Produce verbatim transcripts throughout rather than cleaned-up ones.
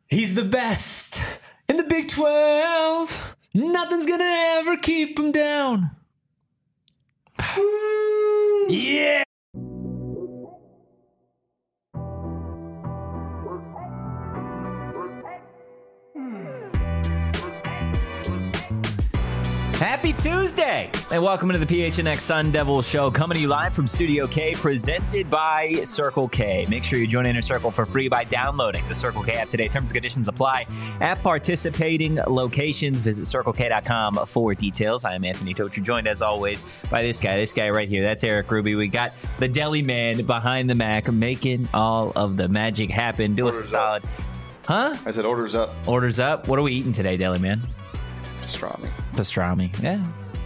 He's the best in the Big twelve. Nothing's gonna ever keep him down. Yeah. Happy Tuesday, and welcome into the P H N X Sun Devil Show, coming to you live from Studio K, presented by Circle K. Make sure you join Inner Circle for free by downloading the Circle K app today. Terms and conditions apply at participating locations. Visit circle k dot com for details. I am Anthony Tocher, joined as always by this guy, this guy right here. That's Eric Ruby. We got the deli man behind the Mac, making all of the magic happen. Do us a solid. Huh? I said orders up. Orders up. What are we eating today, deli man? Pastrami. Pastrami, yeah.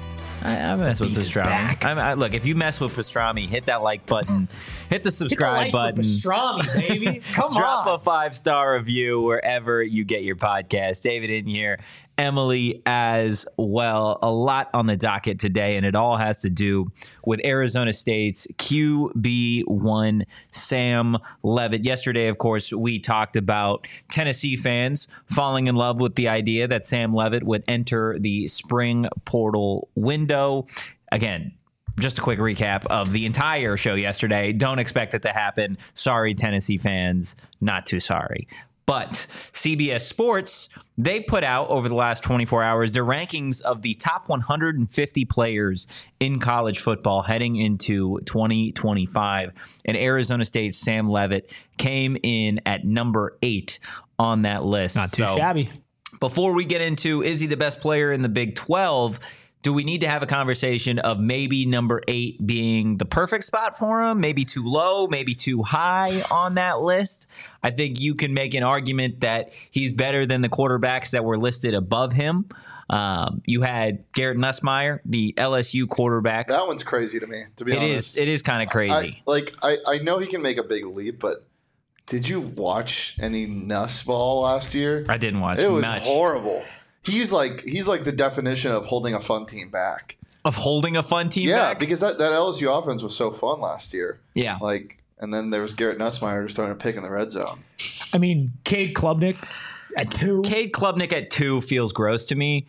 I, I mess with pastrami. I, I, look, if you mess with pastrami, hit that like button, hit the subscribe hit the like button. Pastrami, baby. Come Drop on. a five star review wherever you get your podcast. David in here, Emily as well. A lot on the docket today, and it all has to do with Arizona State's Q B one, Sam Leavitt. Yesterday, of course, we talked about Tennessee fans falling in love with the idea that Sam Leavitt would enter the spring portal window. Again, just a quick recap of the entire show yesterday. Don't expect it to happen. Sorry, Tennessee fans. Not too sorry. But C B S Sports, they put out over the last twenty-four hours their rankings of the top one hundred fifty players in college football heading into twenty twenty-five. And Arizona State's Sam Leavitt came in at number eight on that list. Not too so, shabby. Before we get into, is he the best player in the Big twelve? Do we need to have a conversation of maybe number eight being the perfect spot for him? Maybe too low, maybe too high on that list? I think you can make an argument that he's better than the quarterbacks that were listed above him. Um, you had Garrett Nussmeier, the L S U quarterback. That one's crazy to me, to be it honest. Is, it is kind of crazy. I, like, I, I know he can make a big leap, but did you watch any Nuss ball last year? I didn't watch It was much. horrible. He's like he's like the definition of holding a fun team back. Of holding a fun team yeah, back? because that, that L S U offense was so fun last year. Yeah. Like, and then there was Garrett Nussmeier just throwing a pick in the red zone. I mean, Cade Klubnik at two. Cade Klubnik at two feels gross to me.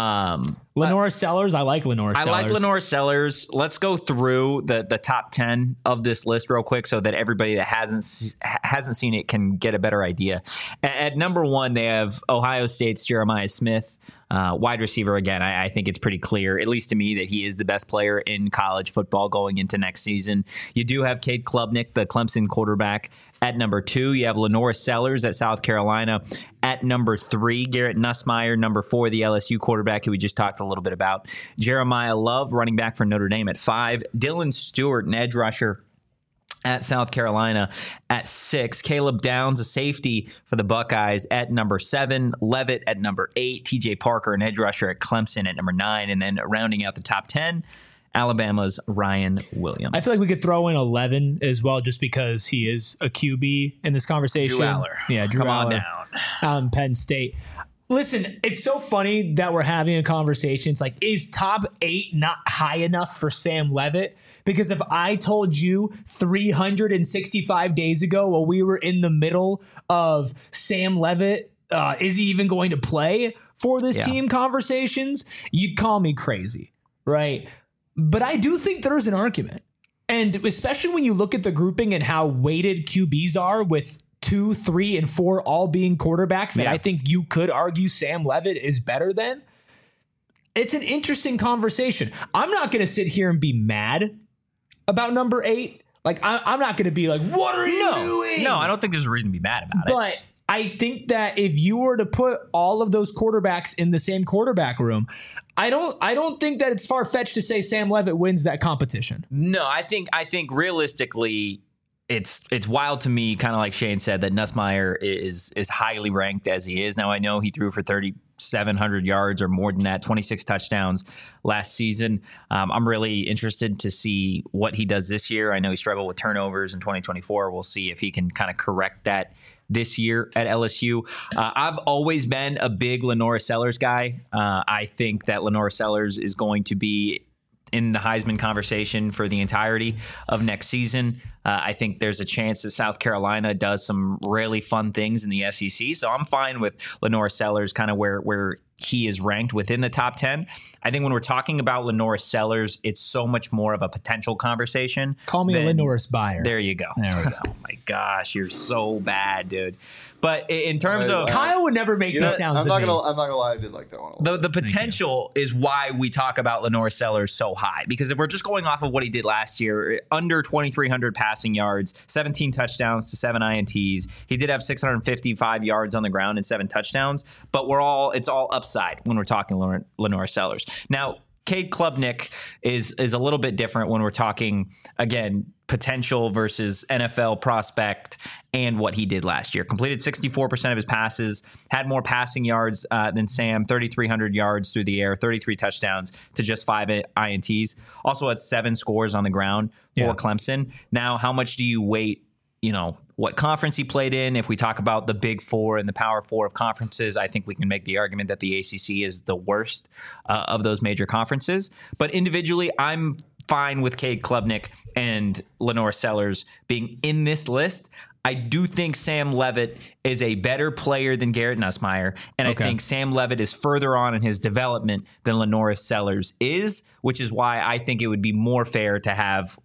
Um, Lenore Sellers. I like Lenore I Sellers. like Lenore Sellers. Let's go through the, the top ten of this list real quick so that everybody that hasn't hasn't seen it can get a better idea. At, at number one, they have Ohio State's Jeremiah Smith, uh, wide receiver. Again, I, I think it's pretty clear, at least to me, that he is the best player in college football going into next season. You do have Cade Klubnik, the Clemson quarterback, at number two. You have Lenore Sellers at South Carolina at number three. Garrett Nussmeier, number four, the L S U quarterback who we just talked a little bit about. Jeremiah Love, running back for Notre Dame, at five. Dylan Stewart, an edge rusher at South Carolina, at six. Caleb Downs, a safety for the Buckeyes, at number seven. Leavitt at number eight. T J Parker, an edge rusher at Clemson, at number nine. And then rounding out the top ten, Alabama's Ryan Williams. I feel like we could throw in eleven as well, just because he is a Q B in this conversation. Drew Aller. Yeah, Drew Come on Aller, down. Um, Penn State. Listen, it's so funny that we're having a conversation. It's like, is top eight not high enough for Sam Leavitt? Because if I told you three hundred sixty-five days ago, while we were in the middle of Sam Leavitt, uh, is he even going to play for this Yeah. team conversations, you'd call me crazy, right? But I do think there's an argument. And especially when you look at the grouping and how weighted Q Bs are with two, three, and four all being quarterbacks that Yeah. I think you could argue Sam Leavitt is better than. It's an interesting conversation. I'm not going to sit here and be mad about number eight. Like, I, I'm not going to be like, what are you No, doing? no, I don't think there's a reason to be mad about it. But I think that if you were to put all of those quarterbacks in the same quarterback room, I don't I don't think that it's far-fetched to say Sam Leavitt wins that competition. No, I think I think realistically, it's it's wild to me, kind of like Shane said, that Nussmeier is is highly ranked as he is. Now, I know he threw for thirty-seven hundred yards or more than that, twenty-six touchdowns last season. Um, I'm really interested to see what he does this year. I know he struggled with turnovers in twenty twenty-four. We'll see if he can kind of correct that this year at L S U. Uh, I've always been a big Lenore Sellers guy. Uh, I think that Lenore Sellers is going to be in the Heisman conversation for the entirety of next season. Uh, I think there's a chance that South Carolina does some really fun things in the S E C. So I'm fine with Lenore Sellers kind of where where he is ranked within the top ten. I think when we're talking about Lenore Sellers, it's so much more of a potential conversation. Call me than, a Lenore's buyer. There you go. There we go. Oh my gosh, you're so bad, dude. But in terms I- of I- Kyle would never make You know, these sounds. I'm to not me. gonna. I'm not gonna lie. I did like that one. A the lot. the potential is why we talk about Lenore Sellers so high, because if we're just going off of what he did last year, under twenty-three hundred passing yards, seventeen touchdowns to seven I N Ts. He did have six hundred fifty-five yards on the ground and seven touchdowns, but we're all it's all upside when we're talking Lenore, Lenore Sellers. Now, Cade Klubnik is is a little bit different when we're talking, again, potential versus N F L prospect and what he did last year. Completed sixty-four percent of his passes, had more passing yards uh, than Sam, thirty-three hundred yards through the air, thirty-three touchdowns to just five I N Ts. Also had seven scores on the ground for Yeah. Clemson. Now, how much do you weight, you know, what conference he played in? If we talk about the big four and the power four of conferences, I think we can make the argument that the A C C is the worst uh, of those major conferences. But individually, I'm fine with Cade Klubnik and Lenore Sellers being in this list. I do think Sam Levitt is a better player than Garrett Nussmeier, and Okay. I think Sam Levitt is further on in his development than Lenore Sellers is, which is why I think it would be more fair to have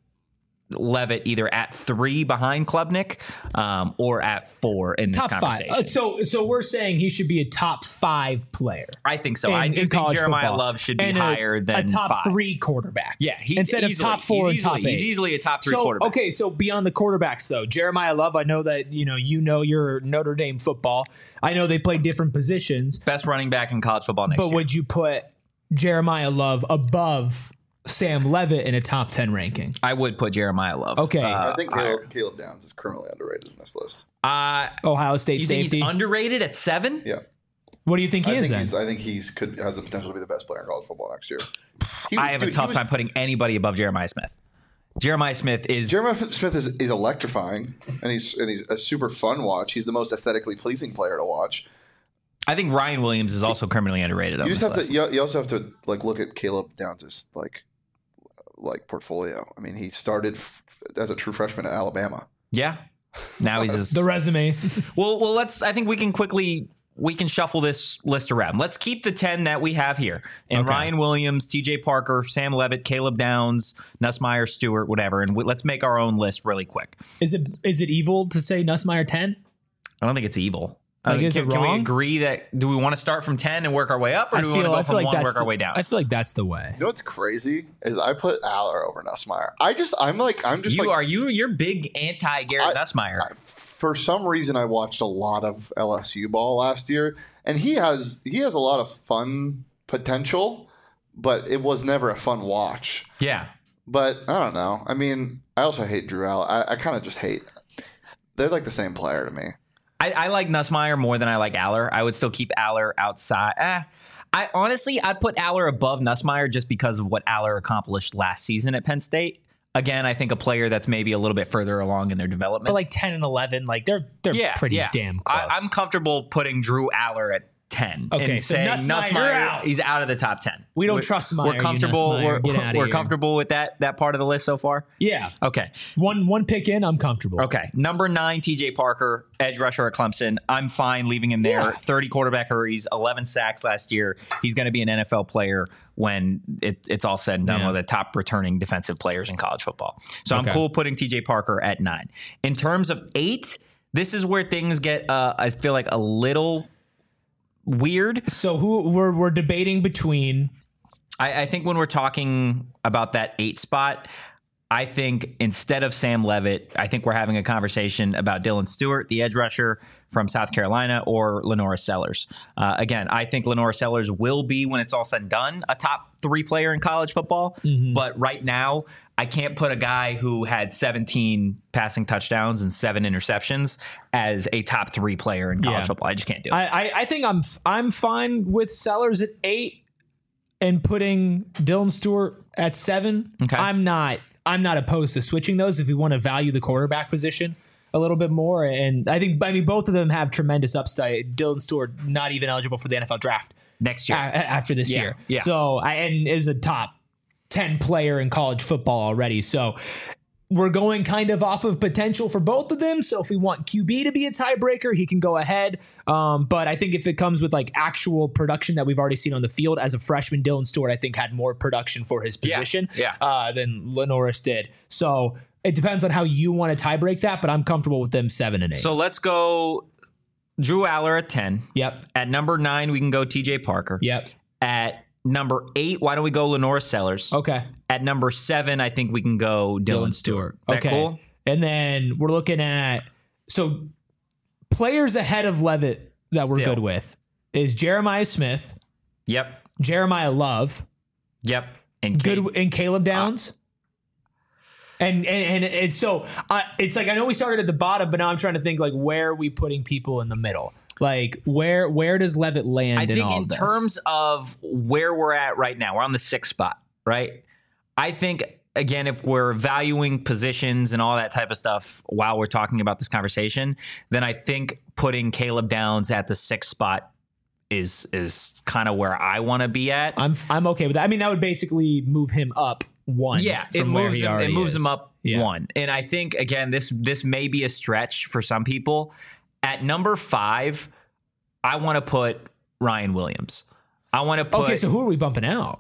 Levitt either at three behind Klubnik um, or at four in this top five. conversation. Uh, so, so we're saying he should be a top five player. I think so. in- I do in think college Jeremiah football. Love should be And a- higher than a top five. three quarterback. Yeah, he, instead easily, of top four he's and easily, top eight. He's easily a top three So quarterback. okay, so beyond the quarterbacks though, Jeremiah Love. I know that you know you know your Notre Dame football. I know they play different positions, Best running back in college football next but year. would you put Jeremiah Love above Sam Levitt in a top ten ranking? I would put Jeremiah Love. Okay. uh, I think higher. Caleb, Caleb Downs is criminally underrated in this list. Uh, Ohio State you think safety. he's underrated at seven? Yeah, what do you think he I is think then? he's. I think he's could has the potential to be the best player in college football next year. He I was- have dude, a he tough was- time putting anybody above Jeremiah Smith. Jeremiah Smith is Jeremiah Smith is, is electrifying, and he's and he's a super fun watch. He's the most aesthetically pleasing player to watch. I think Ryan Williams is also criminally underrated on You this just have list. to. You, you also have to like look at Caleb Downs' like like portfolio. I mean, he started f- as a true freshman at Alabama. Yeah. Now he's just, the resume. well. Well, let's. I think we can quickly we can shuffle this list around. Let's keep the ten that we have here, and Okay. Ryan Williams, T J Parker, Sam Levitt, Caleb Downs, Nussmeier, Stewart, whatever, and we, let's make our own list really quick. Is it is it evil to say Nussmeier ten? I don't think it's evil. Like, Uh, is can, it can we wong? agree that do we want to start from ten and work our way up, or do we want to go from one and work the, our way down? I feel like that's the way. You know what's crazy is I put Aller over Nussmeier. I just I'm like I'm just you like are you you're big anti Garrett I- Nussmeier. I- for some reason I watched a lot of L S U ball last year, and he has he has a lot of fun potential, but it was never a fun watch. yeah. But I don't know. I mean, I also hate Drew Aller. I, I kind of just hate. They're like the same player to me. I, I like Nussmeier more than I like Aller. I would still keep Aller outside. Eh, I honestly, I'd put Aller above Nussmeier just because of what Aller accomplished last season at Penn State. Again, I think a player that's maybe a little bit further along in their development. But like ten and eleven, like they're they're yeah, pretty yeah. damn close. I, I'm comfortable putting Drew Aller at ten. Okay, and so saying Nussmeier, you're out. he's out of the top ten. We don't We're- trust Meyer, We're you comfortable. Nussmeier. We're, Get outta we're here. comfortable with that that part of the list so far. yeah, Okay. one one pick in, I'm comfortable. Okay. Number nine, T J Parker, edge rusher at Clemson. I'm fine leaving him there. Yeah. thirty quarterback hurries, eleven sacks last year. He's going to be an N F L player when it, it's all said and done, Yeah. one of the top returning defensive players in college football. So Okay. I'm cool putting T J Parker at nine. In terms of eight, this is where things get, uh, I feel like, a little weird. So who we're we're debating between I, I think when we're talking about that eight spot, I think instead of Sam Levitt, I think we're having a conversation about Dylan Stewart, the edge rusher from South Carolina, or Lenora Sellers. Uh, again, I think Lenora Sellers will be, when it's all said and done, a top three player in college football. Mm-hmm. But right now, I can't put a guy who had seventeen passing touchdowns and seven interceptions as a top three player in college Yeah. football. I just can't do it. I, I I think I'm I'm fine with Sellers at eight and putting Dylan Stewart at seven. Okay. I'm not I'm not opposed to switching those if we want to value the quarterback position a little bit more. And I think I mean both of them have tremendous upside. Dylan Stewart not even eligible for the N F L draft Next a- year. a- after this Yeah, year. yeah. So I and is a top ten player in college football already. So we're going kind of off of potential for both of them. So if we want Q B to be a tiebreaker, he can go ahead. Um, but I think if it comes with like actual production that we've already seen on the field as a freshman, Dylan Stewart, I think had more production for his position yeah, yeah. Uh, than Lenoris did. So it depends on how you want to tiebreak that, but I'm comfortable with them seven and eight. So let's go Drew Aller at ten. Yep. At number nine, we can go T J Parker. Yep. At number eight, why don't we go Lenore Sellers? Okay. At number seven, I think we can go Dylan, Dylan Stewart. Stewart. That Okay. cool? And then we're looking at so players ahead of Levitt that we're Still. good with is Jeremiah Smith, Yep. Jeremiah Love, Yep. And good Cade. and Caleb Downs. And, and and and so uh, it's like I know we started at the bottom, but now I'm trying to think like where are we putting people in the middle? Like where where does Levitt land? I in think all in this? terms of where we're at right now, we're on the sixth spot, right? I think, again, if we're valuing positions and all that type of stuff while we're talking about this conversation, then I think putting Caleb Downs at the sixth spot is is kind of where I want to be at. I'm I'm okay with that. I mean, that would basically move him up one. Yeah, it from where moves he him. It already moves is. him up Yeah. one, and I think again this this may be a stretch for some people. At number five, I want to put Ryan Williams. I want to put. Okay, so who are we bumping out?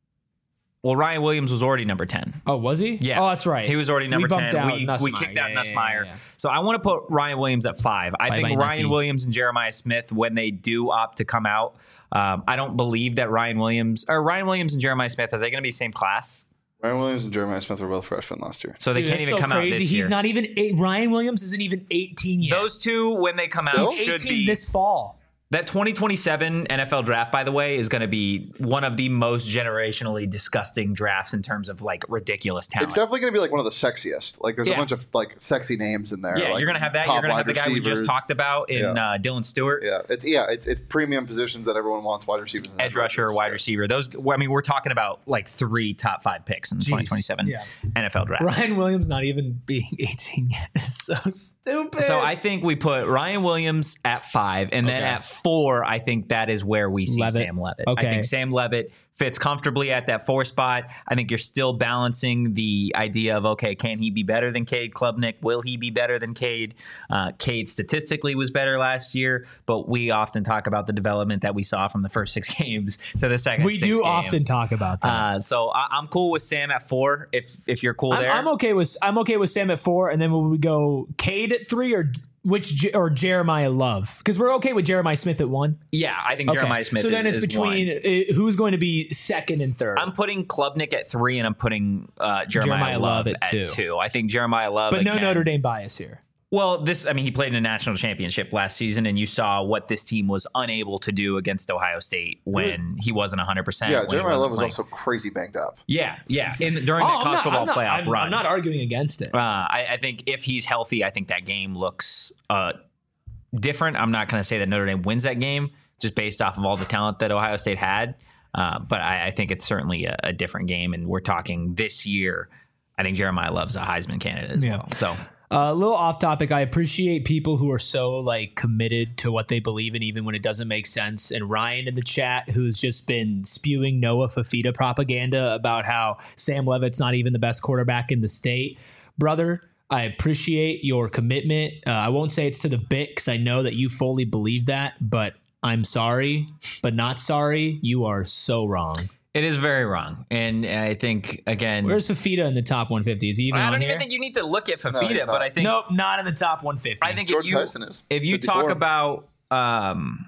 Well, Ryan Williams was already number ten. Oh, was he? Yeah. Oh, that's right. He was already number we bumped ten. Out We, Nussmeier. we kicked out Yeah, yeah, Nussmeier. yeah, yeah. So I want to put Ryan Williams at five. I Bye think bye, Ryan Nussie. Williams and Jeremiah Smith, when they do opt to come out, um, I don't believe that Ryan Williams or Ryan Williams and Jeremiah Smith, are they going to be same class? Ryan Williams and Jeremiah Smith were both freshmen last year. So they Dude, can't that's even so come crazy. out this He's year. not even eight, Ryan Williams isn't even eighteen yet. Those two, when they come Still? out, He's should eighteen be. this fall. That twenty twenty-seven N F L draft, by the way, is going to be one of the most generationally disgusting drafts in terms of like ridiculous talent. It's definitely going to be like one of the sexiest. Like there's Yeah. a bunch of like sexy names in there. yeah, like, you're going to have that. top You're going to have the wide guy we just receivers. talked about in Yeah. uh, Dylan Stewart. Yeah, it's yeah, it's it's premium positions that everyone wants. Wide receivers, and Edge rusher, wide receiver. Those, I mean, we're talking about like three top five picks in the Jeez. twenty twenty-seven Yeah. N F L draft. Ryan Williams not even being eighteen yet is so stupid. So I think we put Ryan Williams at five, and then Okay. at four, I think that is where we see Levitt. Sam Levitt. Okay. I think Sam Levitt fits comfortably at that four spot. I think you're still balancing the idea of, okay, can he be better than Cade Klubnik? Will he be better than Cade? Uh, Cade statistically was better last year, but we often talk about the development that we saw from the first six games to the second we six do games. often talk about that. Uh, so I, I'm cool with Sam at four. If if you're cool I'm, there, I'm okay with I'm okay with Sam at four, and then will we go Cade at three or which J- or Jeremiah Love? Because we're okay with Jeremiah Smith at one. yeah, I think Okay. Jeremiah Smith. So is, then it's is between one. uh, who's going to be second and third. I'm putting Klubnik at three, and I'm putting uh, Jeremiah, Jeremiah Love, Love at, at two. two. I think Jeremiah Love, but no again- Notre Dame bias here. Well, this, I mean, he played in a national championship last season, and you saw what this team was unable to do against Ohio State when he wasn't one hundred percent. Yeah, when he Jeremiah wasn't Love was playing. also crazy banged up. Yeah, yeah. In, during that Oh, I'm college not- football I'm not- playoff I'm, run. I'm not arguing against it. Uh, I, I think if he's healthy, I think that game looks uh, different. I'm not going to say that Notre Dame wins that game just based off of all the talent that Ohio State had. Uh, but I, I think it's certainly a, a different game. And we're talking this year. I think Jeremiah Love's a Heisman candidate as Yeah. well. So Uh, a little off topic. I appreciate people who are so like committed to what they believe in, even when it doesn't make sense. And Ryan in the chat, who's just been spewing Noah Fafita propaganda about how Sam Levitt's not even the best quarterback in the state. Brother, I appreciate your commitment. Uh, I won't say it's to the bit because I know that you fully believe that, but I'm sorry, but not sorry. You are so wrong. it is very wrong. And I think, again, Where's Fafita in the top one fifty? Is he even I on don't here? even think you need to look at No, Fafita, he's but not. I think Nope, not in the top one fifty. I think if Jordan you Tyson is. if you fifty-four. talk about um,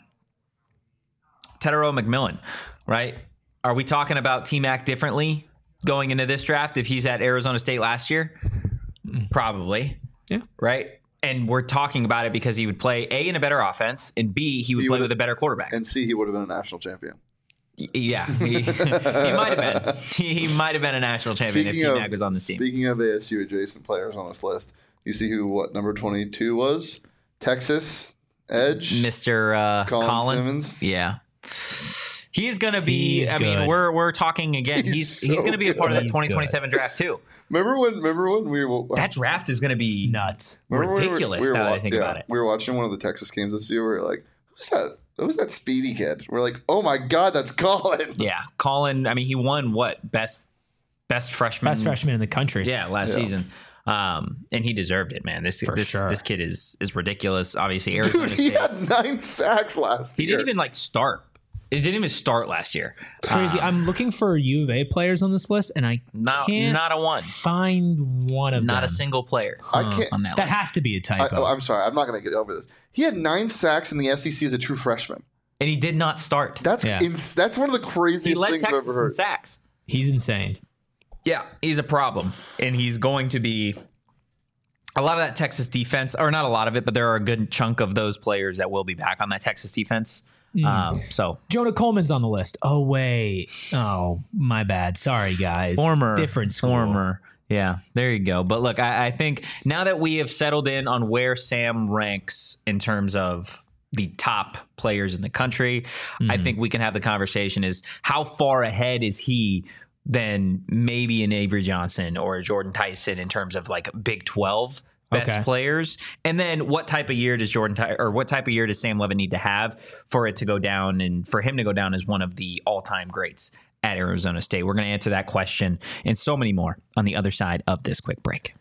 Tetero McMillan, right? Are we talking about T-Mac differently going into this draft if he's at Arizona State last year? Probably. Yeah. Right? And we're talking about it because he would play A, in a better offense, and B, he would He play would've- with a better quarterback. and C, he would have been a national champion. Y- yeah. He, he might have been. He, he might have been a national champion if T-Mac was on the team. Speaking of A S U adjacent players on this list, you see who what number twenty-two was? Texas Edge. Mister Uh, Colin Colin. Simmons. Yeah. He's going to be, He's I mean, good. we're we're talking again. He's He's so he's going to be a part of that good. twenty twenty-seven draft too. Remember when? Remember when we were That draft is going to be Nuts. remember when we were- ridiculous we were now that wa- I think yeah, about it. We were watching one of the Texas games this year. We were like, "Who's that? Who's that speedy kid?" We're like, "Oh my god, that's Colin!" Yeah, Colin. I mean, he won what best best freshman. Best freshman in the country. Yeah, last Yeah. season. Um, and he deserved it, man. This For this sure. this kid is is ridiculous. Obviously, Arizona Dude, he State. had nine sacks last He year. didn't even like start. It didn't even start last year. It's crazy. Um, I'm looking for U of A players on this list, and I Not- can't not a one. find one of not them. a single player. I can't. on that. That list. has to be a I, typo. I'm sorry. I'm not going to get over this. He had nine sacks in the S E C as a true freshman. and he did not start. That's Yeah. ins- that's one of the He craziest led things I've Texas ever in heard. sacks. He's insane. Yeah, he's a problem, and he's going to be a lot of that Texas defense, or not a lot of it, but there are a good chunk of those players that will be back on that Texas defense. Um, so Jonah Coleman's on the list. Oh wait. Oh, my bad. Sorry, guys. former, different school. former. Yeah, there you go. But look, I, I think now that we have settled in on where Sam ranks in terms of the top players in the country, I think we can have the conversation is how far ahead is he than maybe an Avery Johnson or a Jordan Tyson in terms of like Big twelve best Okay. players? And then what type of year does Jordan Ty- or what type of year does Sam Levitt need to have for it to go down and for him to go down as one of the all-time greats at Arizona State? We're going to answer that question and so many more on the other side of this quick break.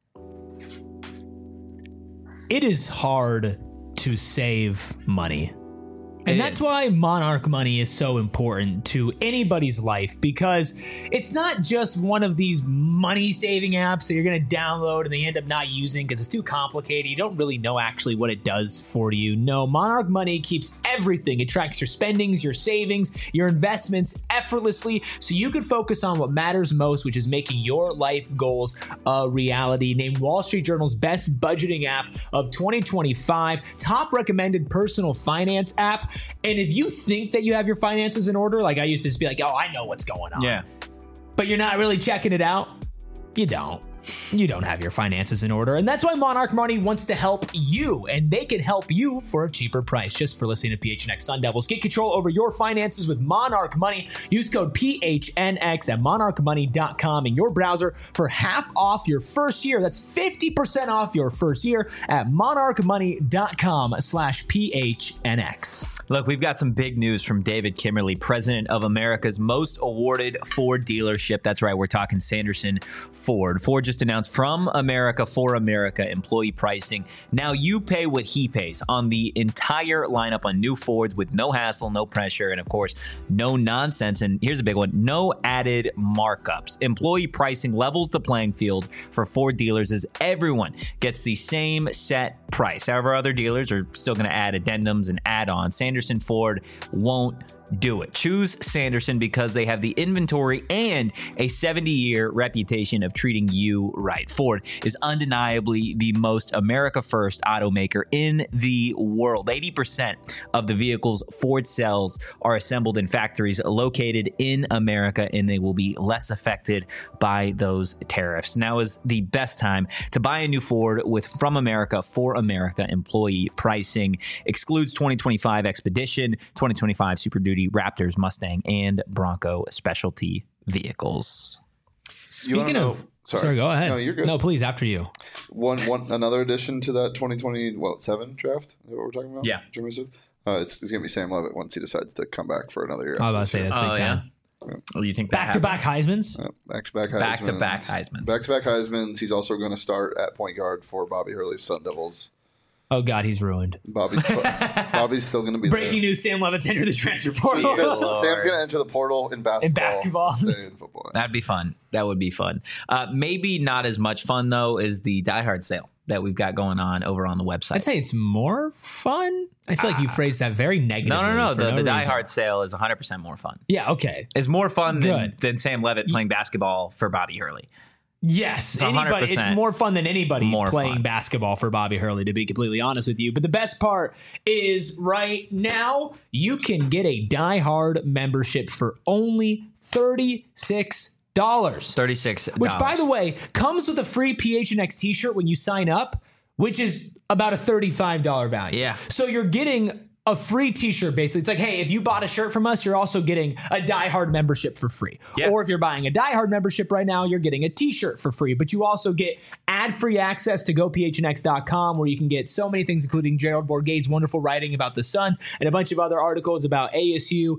It is hard to save money. And It that's is. why Monarch Money is so important to anybody's life, because it's not just one of these money saving apps that you're going to download and they end up not using because it's too complicated. You don't really know actually what it does for you. No, Monarch Money keeps everything. It tracks your spendings, your savings, your investments effortlessly so you can focus on what matters most, which is making your life goals a reality. Named Wall Street Journal's best budgeting app of twenty twenty-five, top recommended personal finance app. And if you think that you have your finances in order, like I used to just be like, oh, I know what's going on. But you're not really checking it out, you don't. You don't have your finances in order. And that's why Monarch Money wants to help you. And they can help you for a cheaper price. Just for listening to P H N X Sun Devils. Get control over your finances with Monarch Money. Use code P H N X at monarch money dot com in your browser for half off your first year. That's fifty percent off your first year at monarch money dot com slash P H N X. Look, we've got some big news from David Kimmerly, president of America's most awarded Ford dealership. That's right, we're talking Sanderson Ford. Ford just announced From America for America employee pricing. Now you pay what he pays on the entire lineup on new Fords with no hassle, no pressure, and of course, no nonsense. And here's a big one, no added markups. Employee pricing levels the playing field for Ford dealers as everyone gets the same set price. However, other dealers are still going to add addendums and add-ons. Sanderson Ford won't do it. Choose Sanderson because they have the inventory and a seventy-year reputation of treating you right. Ford is undeniably the most America-first automaker in the world. eighty percent of the vehicles Ford sells are assembled in factories located in America, and they will be less affected by those tariffs. Now is the best time to buy a new Ford with From America for America employee pricing. Excludes twenty twenty-five Expedition, twenty twenty-five Super Duty, Raptors, Mustang, and Bronco specialty vehicles. You wanna Speaking know- of, sorry. sorry, go ahead. No, you're good. No, please, after you. One, one, another addition to that twenty twenty, what, seven draft? Is that what we're talking about? Yeah. Jeremy Smith? Uh, it's it's going to be Sam Levitt once he decides to come back for another year. I was after about to this say year. that's big Oh, time. yeah? Oh, you think that Back to back Heisman's. Uh, back-to-back Heismans. Back-to-back Heismans. Back-to-back Heismans. He's also going to start at point guard for Bobby Hurley's Sun Devils. Oh God, he's ruined. Bobby's, Bobby's still going to be Breaking there. news: Sam Levitt's entered the transfer portal. Because Lord. Sam's going to enter the portal in basketball. In basketball. Stay in football. That'd be fun. That would be fun. Uh, maybe not as much fun, though, as the Die Hard sale that we've got going on over on the website. I'd say it's more fun. I feel like you phrased that very negatively. no, no, no. for The, the Die reason. Hard sale is one hundred percent more fun. Yeah. Okay. It's more fun than, Good. than Sam Levitt playing basketball for Bobby Hurley. Yes, one hundred anybody. It's percent more fun than anybody more playing fun. basketball for Bobby Hurley, to be completely honest with you. But the best part is right now you can get a Die Hard membership for only thirty-six dollars. thirty-six dollars. Which, by the way, comes with a free P H N X t-shirt when you sign up, which is about a thirty-five dollars value. Yeah. So you're getting a free t-shirt, basically. It's like, hey, if you bought a shirt from us, you're also getting a Die Hard membership for free. Yeah. Or if you're buying a Die Hard membership right now, you're getting a t-shirt for free. But you also get ad-free access to go P H N X dot com, where you can get so many things, including Gerald Bourguet's wonderful writing about the Suns and a bunch of other articles about A S U.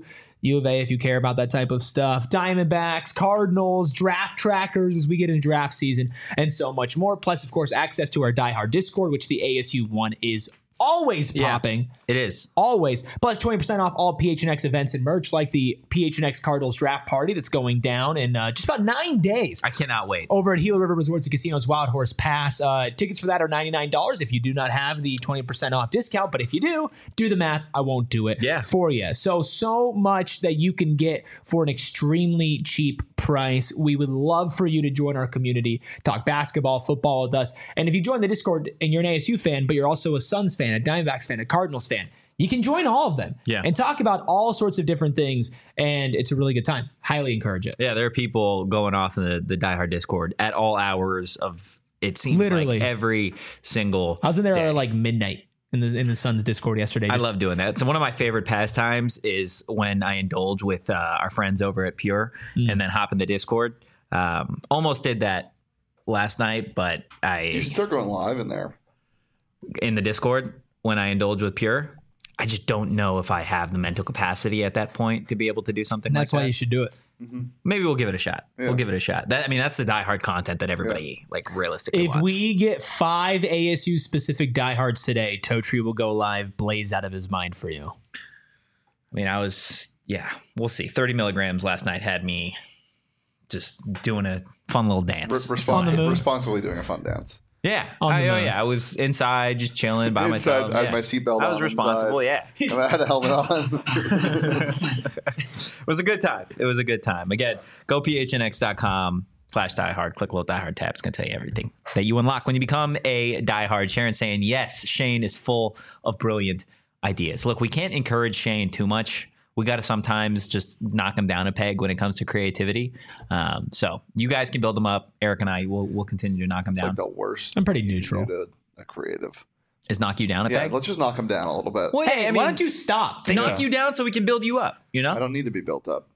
U of A if you care about that type of stuff, Diamondbacks, Cardinals, draft trackers as we get into draft season, and so much more. Plus, of course, access to our Die Hard Discord, which the A S U one is always popping. Yeah, it is. Always. Plus twenty percent off all P H N X events and merch, like the P H N X Cardinals draft party that's going down in uh, just about nine days. I cannot wait. Over at Gila River Resorts and Casinos Wild Horse Pass. Uh, tickets for that are ninety-nine dollars if you do not have the twenty percent off discount. But if you do, do the math. I won't do it yeah. for you. So, so much that you can get for an extremely cheap price. We would love for you to join our community, talk basketball, football with us. And if you join the Discord and you're an A S U fan, but you're also a Suns fan, a Diamondbacks fan, a Cardinals fan, you can join all of them yeah. and talk about all sorts of different things. And it's a really good time. Highly encourage it. Yeah, there are people going off in the, the Die Hard Discord at all hours of, it seems Literally. like every single I was in there day. at like midnight in the in the Suns Discord yesterday. I Just, love doing that. So one of my favorite pastimes is when I indulge with uh, our friends over at Pure Mm. and then hop in the Discord. Um, almost did that last night, but I You should start going live in there. in the Discord when I indulge with Pure. I just don't know if I have the mental capacity at that point to be able to do something and that's like why that. you should do it. Maybe we'll give it a shot. Yeah. We'll give it a shot. That I mean, that's the Die Hard content that everybody like realistically If wants. we get five A S U specific diehards today, Toe Tree will go live, blaze out of his mind for you. I mean, I was, yeah, we'll see. thirty milligrams last night had me just doing a fun little dance. Re- On the respons- moon. responsibly doing a fun dance. Yeah. On the I, oh, moon. yeah. I was inside just chilling by Inside, myself. I had yeah. my seatbelt I was on responsible. inside. Yeah. I had a helmet on. It was a good time. It was a good time. Again, go P H N X dot com slash diehard. Click little diehard tab. It's going to tell you everything that you unlock when you become a diehard. Sharon saying, yes, Shane is full of brilliant ideas. Look, we can't encourage Shane too much. We got to sometimes just knock him down a peg when it comes to creativity. Um, so you guys can build them up. Eric and I will will continue to knock him It's down. like the worst. I'm pretty thing you neutral. can do to a creative. Is knock you down a Yeah, peg? let's just knock him down a little bit. Well, Hey, yeah, I why mean, don't you stop? Think knock you down so we can build you up? You know, I don't need to be built up.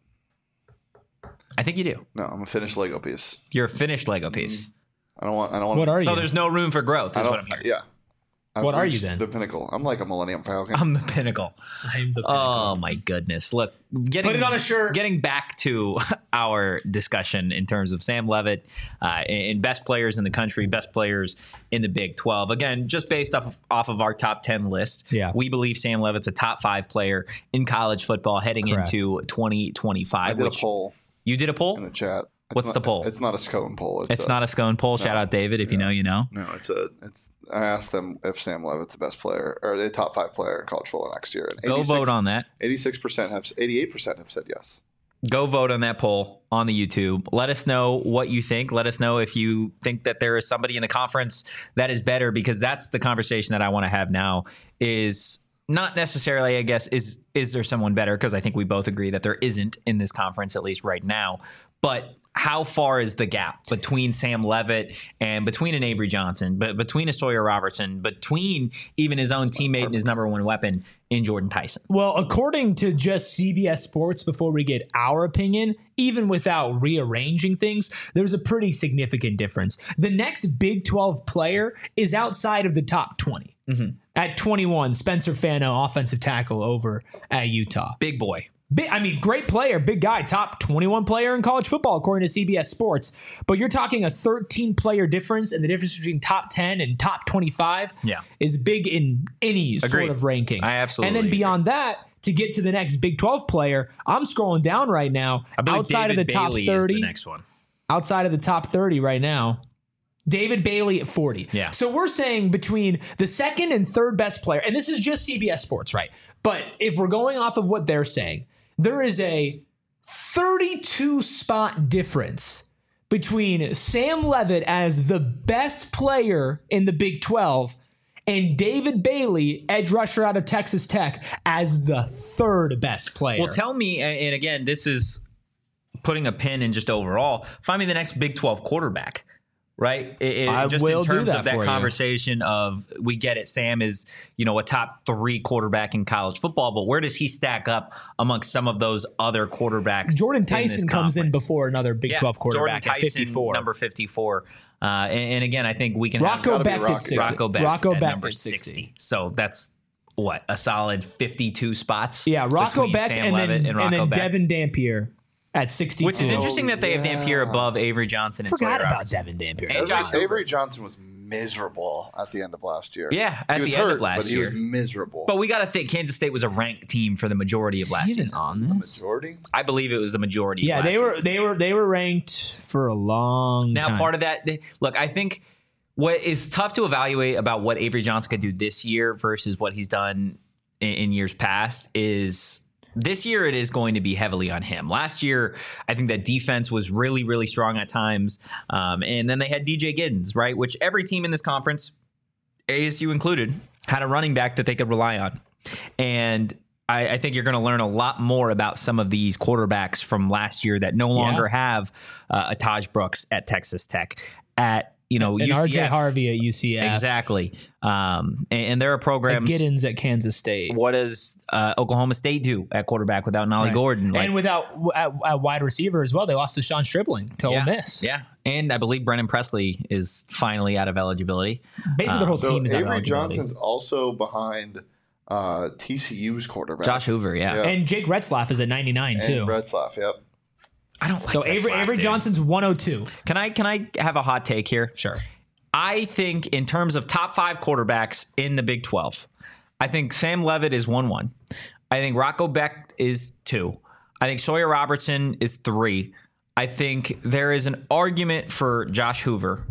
I think you do. No, I'm a finished Lego piece. You're a finished Lego piece. I don't want. I don't want. What are So you? there's no room for growth. I Is don't. what I'm hearing. Yeah. I've What are you reached then? The pinnacle. I'm like a Millennium Falcon. I'm the pinnacle. I'm the Oh my goodness! Look, getting Put it on a shirt. Getting back to our discussion in terms of Sam Levitt uh, and best players in the country, best players in the Big twelve. Again, just based off of, off of our top ten list, Yeah. we believe Sam Levitt's a top five player in college football heading Correct. into twenty I twenty-five. did a which poll you did a in poll. the chat. It's What's not- the poll? It's not a scone poll. It's not a scone poll. Shout out David if you know, you know. No, it's a. It's. I asked them if Sam Levitt's the best player or the top five player in college football next year. And Go vote on that. Eighty-six percent have. Eighty-eight percent have said yes. Go vote on that poll on the YouTube. Let us know what you think. Let us know if you think that there is somebody in the conference that is better, because that's the conversation that I want to have now. Is not necessarily, I guess, is is there someone better? Because I think we both agree that there isn't in this conference, at least right now. But how far is the gap between Sam Levitt and between an Avery Johnson, but between a Sawyer Robertson, between even his own teammate and his number one weapon in Jordan Tyson? Well, according to just C B S Sports, before we get our opinion, even without rearranging things, there's a pretty significant difference. The next Big twelve player is outside of the top twenty. Mm-hmm. At twenty-one, Spencer Fano, offensive tackle over at Utah. Big boy. Big, I mean, great player, big guy, top twenty-one player in college football, according to C B S Sports. But you're talking a thirteen player difference, and the difference between top ten and top twenty-five Yeah. is big in any sort Agreed. of ranking. I absolutely And then agree. beyond that, to get to the next Big twelve player, I'm scrolling down right now. I believe Outside David of the top Bailey thirty, is the next one. outside of the top thirty right now, David Bailey at forty. Yeah. So we're saying between the second and third best player, and this is just C B S Sports, right? But if we're going off of what they're saying, there is a thirty-two spot difference between Sam Levitt as the best player in the Big twelve and David Bailey, edge rusher out of Texas Tech, as the third best player. Well, tell me, and again, this is putting a pin in just overall, find me the next Big twelve quarterback, right? It, it- I just will in do terms that of that for you. conversation of, we get it, Sam is, you know, a top three quarterback in college football, but where does he stack up amongst some of those other quarterbacks? Jordan in this Tyson comes in conference? before another Big Yeah, twelve quarterback Jordan at Tyson, fifty-four. number fifty-four. Uh, and, and again, I think we can Rocco gotta be Becht Rocky. at sixty. have Rocco Becht Rocco at Becht number at sixty. sixty. So that's what, a solid fifty-two spots. Yeah, Rocco between Beck Sam and then, Levitt and Rocco then Beck. Devin Dampier at sixty-two. Which is interesting that they have yeah. Dampier above Avery Johnson and Forgot Sawyer about Robertson. Devin Dampier. And Avery, Josh Hoover. Avery Johnson was miserable at the end of last year. Yeah, at he was the hurt, end of last but he year. was miserable. But we got to think Kansas State was a ranked team for the majority of last Even season. on the this. majority. I believe it was the majority. Yeah, of last they were season. they were they were ranked for a long Now, time. part of that, look, I think what is tough to evaluate about what Avery Johnson could do this year versus what he's done in, in years past is this year it is going to be heavily on him. Last year, I think that defense was really, really strong at times. Um, and then they had D J Giddens, right? Which every team in this conference, A S U included, had a running back that they could rely on. And I, I think you're going to learn a lot more about some of these quarterbacks from last year that no longer have uh, a Taj Brooks at Texas Tech, at you know and U C F. R J Harvey at U C F. Exactly. Um, and, and there are And programs. Giddens at Kansas State. What does uh, Oklahoma State do at quarterback without Nolly Right. Gordon? Like, and without at, at wide receiver as well, they lost to Sean Stribling to yeah, Ole Miss. yeah. And I believe Brennan Presley is finally out of eligibility. Basically, the whole So team is out of Avery eligibility. Johnson's also behind uh, T C U's quarterback. Josh Hoover, yeah. Yeah. And Jake Retzlaff is at ninety-nine and too. Retzlaff, yep. I don't like So Avery Retzlaff, Avery dude. Johnson's one oh two. Can I can I have a hot take here? Sure. I think in terms of top five quarterbacks in the Big twelve, I think Sam Levitt is one one. I think Rocco Beck is two. I think Sawyer Robertson is three. I think there is an argument for Josh Hoover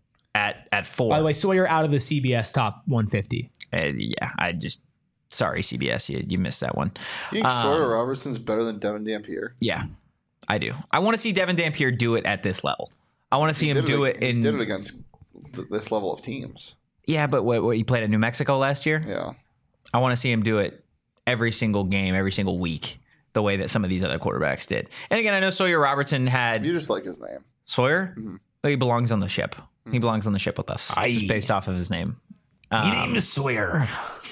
at at four. By the way, Sawyer out of the C B S top one fifty. Uh, yeah, I just sorry C B S, you, you missed that one. You think Um, Sawyer Robertson's better than Devin Dampier? Yeah, I do. I want to see Devin Dampier do it at this level. I want to see him Did do it, it he in. did it against th- this level of teams. Yeah, but what, what he played at New Mexico last year. Yeah. I want to see him do it every single game, every single week, the way that some of these other quarterbacks did. And again, I know Sawyer Robertson had You just like his name. Sawyer. Mhm. Well, he belongs on the ship. He belongs on the ship with us, Aye. just based off of his name. Your Um, name is Sawyer.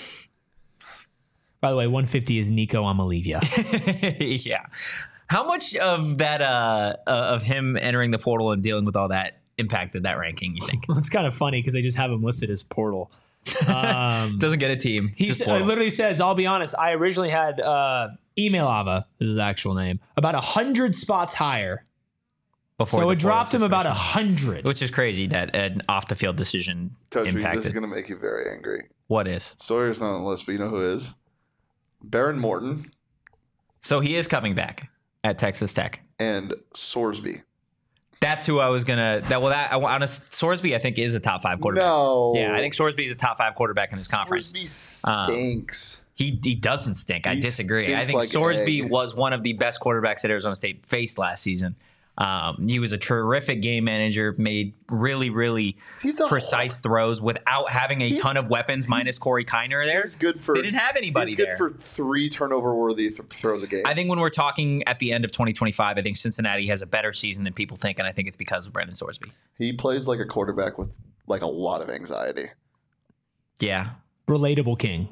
By the way, one fifty is Nico Amalivia. yeah. How much of that, uh, uh, of him entering the portal and dealing with all that, impacted that ranking? You think? Well, it's kind of funny because they just have him listed as portal. Um, Doesn't get a team. he just s- portal. literally says, "I'll be honest. I originally had uh, Email Ava, this is his actual name, about a hundred spots higher. Before So the it dropped him portal about a situation. hundred. Which is crazy that an off the field decision Touch me. This is impacted. going to make you very angry. What is? Sawyer's not on the list, but you know who is? Baron Morton So he is coming back at Texas Tech. and Sorsby. That's who I was gonna. That well, that I want. Honest, Sorsby, I think, is a top five quarterback. No. Yeah, I think Sorsby is a top five quarterback in this conference. Sorsby Um, stinks. He he doesn't stink. I He disagree. I stinks think like Sorsby egg. was one of the best quarterbacks that Arizona State faced last season. Um, he was a terrific game manager, made really, really He's a precise throws without having a He's- ton of weapons, minus Corey Kiner there. He's good for. They didn't have anybody He's good there. for three turnover-worthy th- throws a game. I think when we're talking at the end of twenty twenty-five, I think Cincinnati has a better season than people think, and I think it's because of Brandon Sorsby. he plays like a quarterback with like a lot of anxiety. Yeah. Relatable king.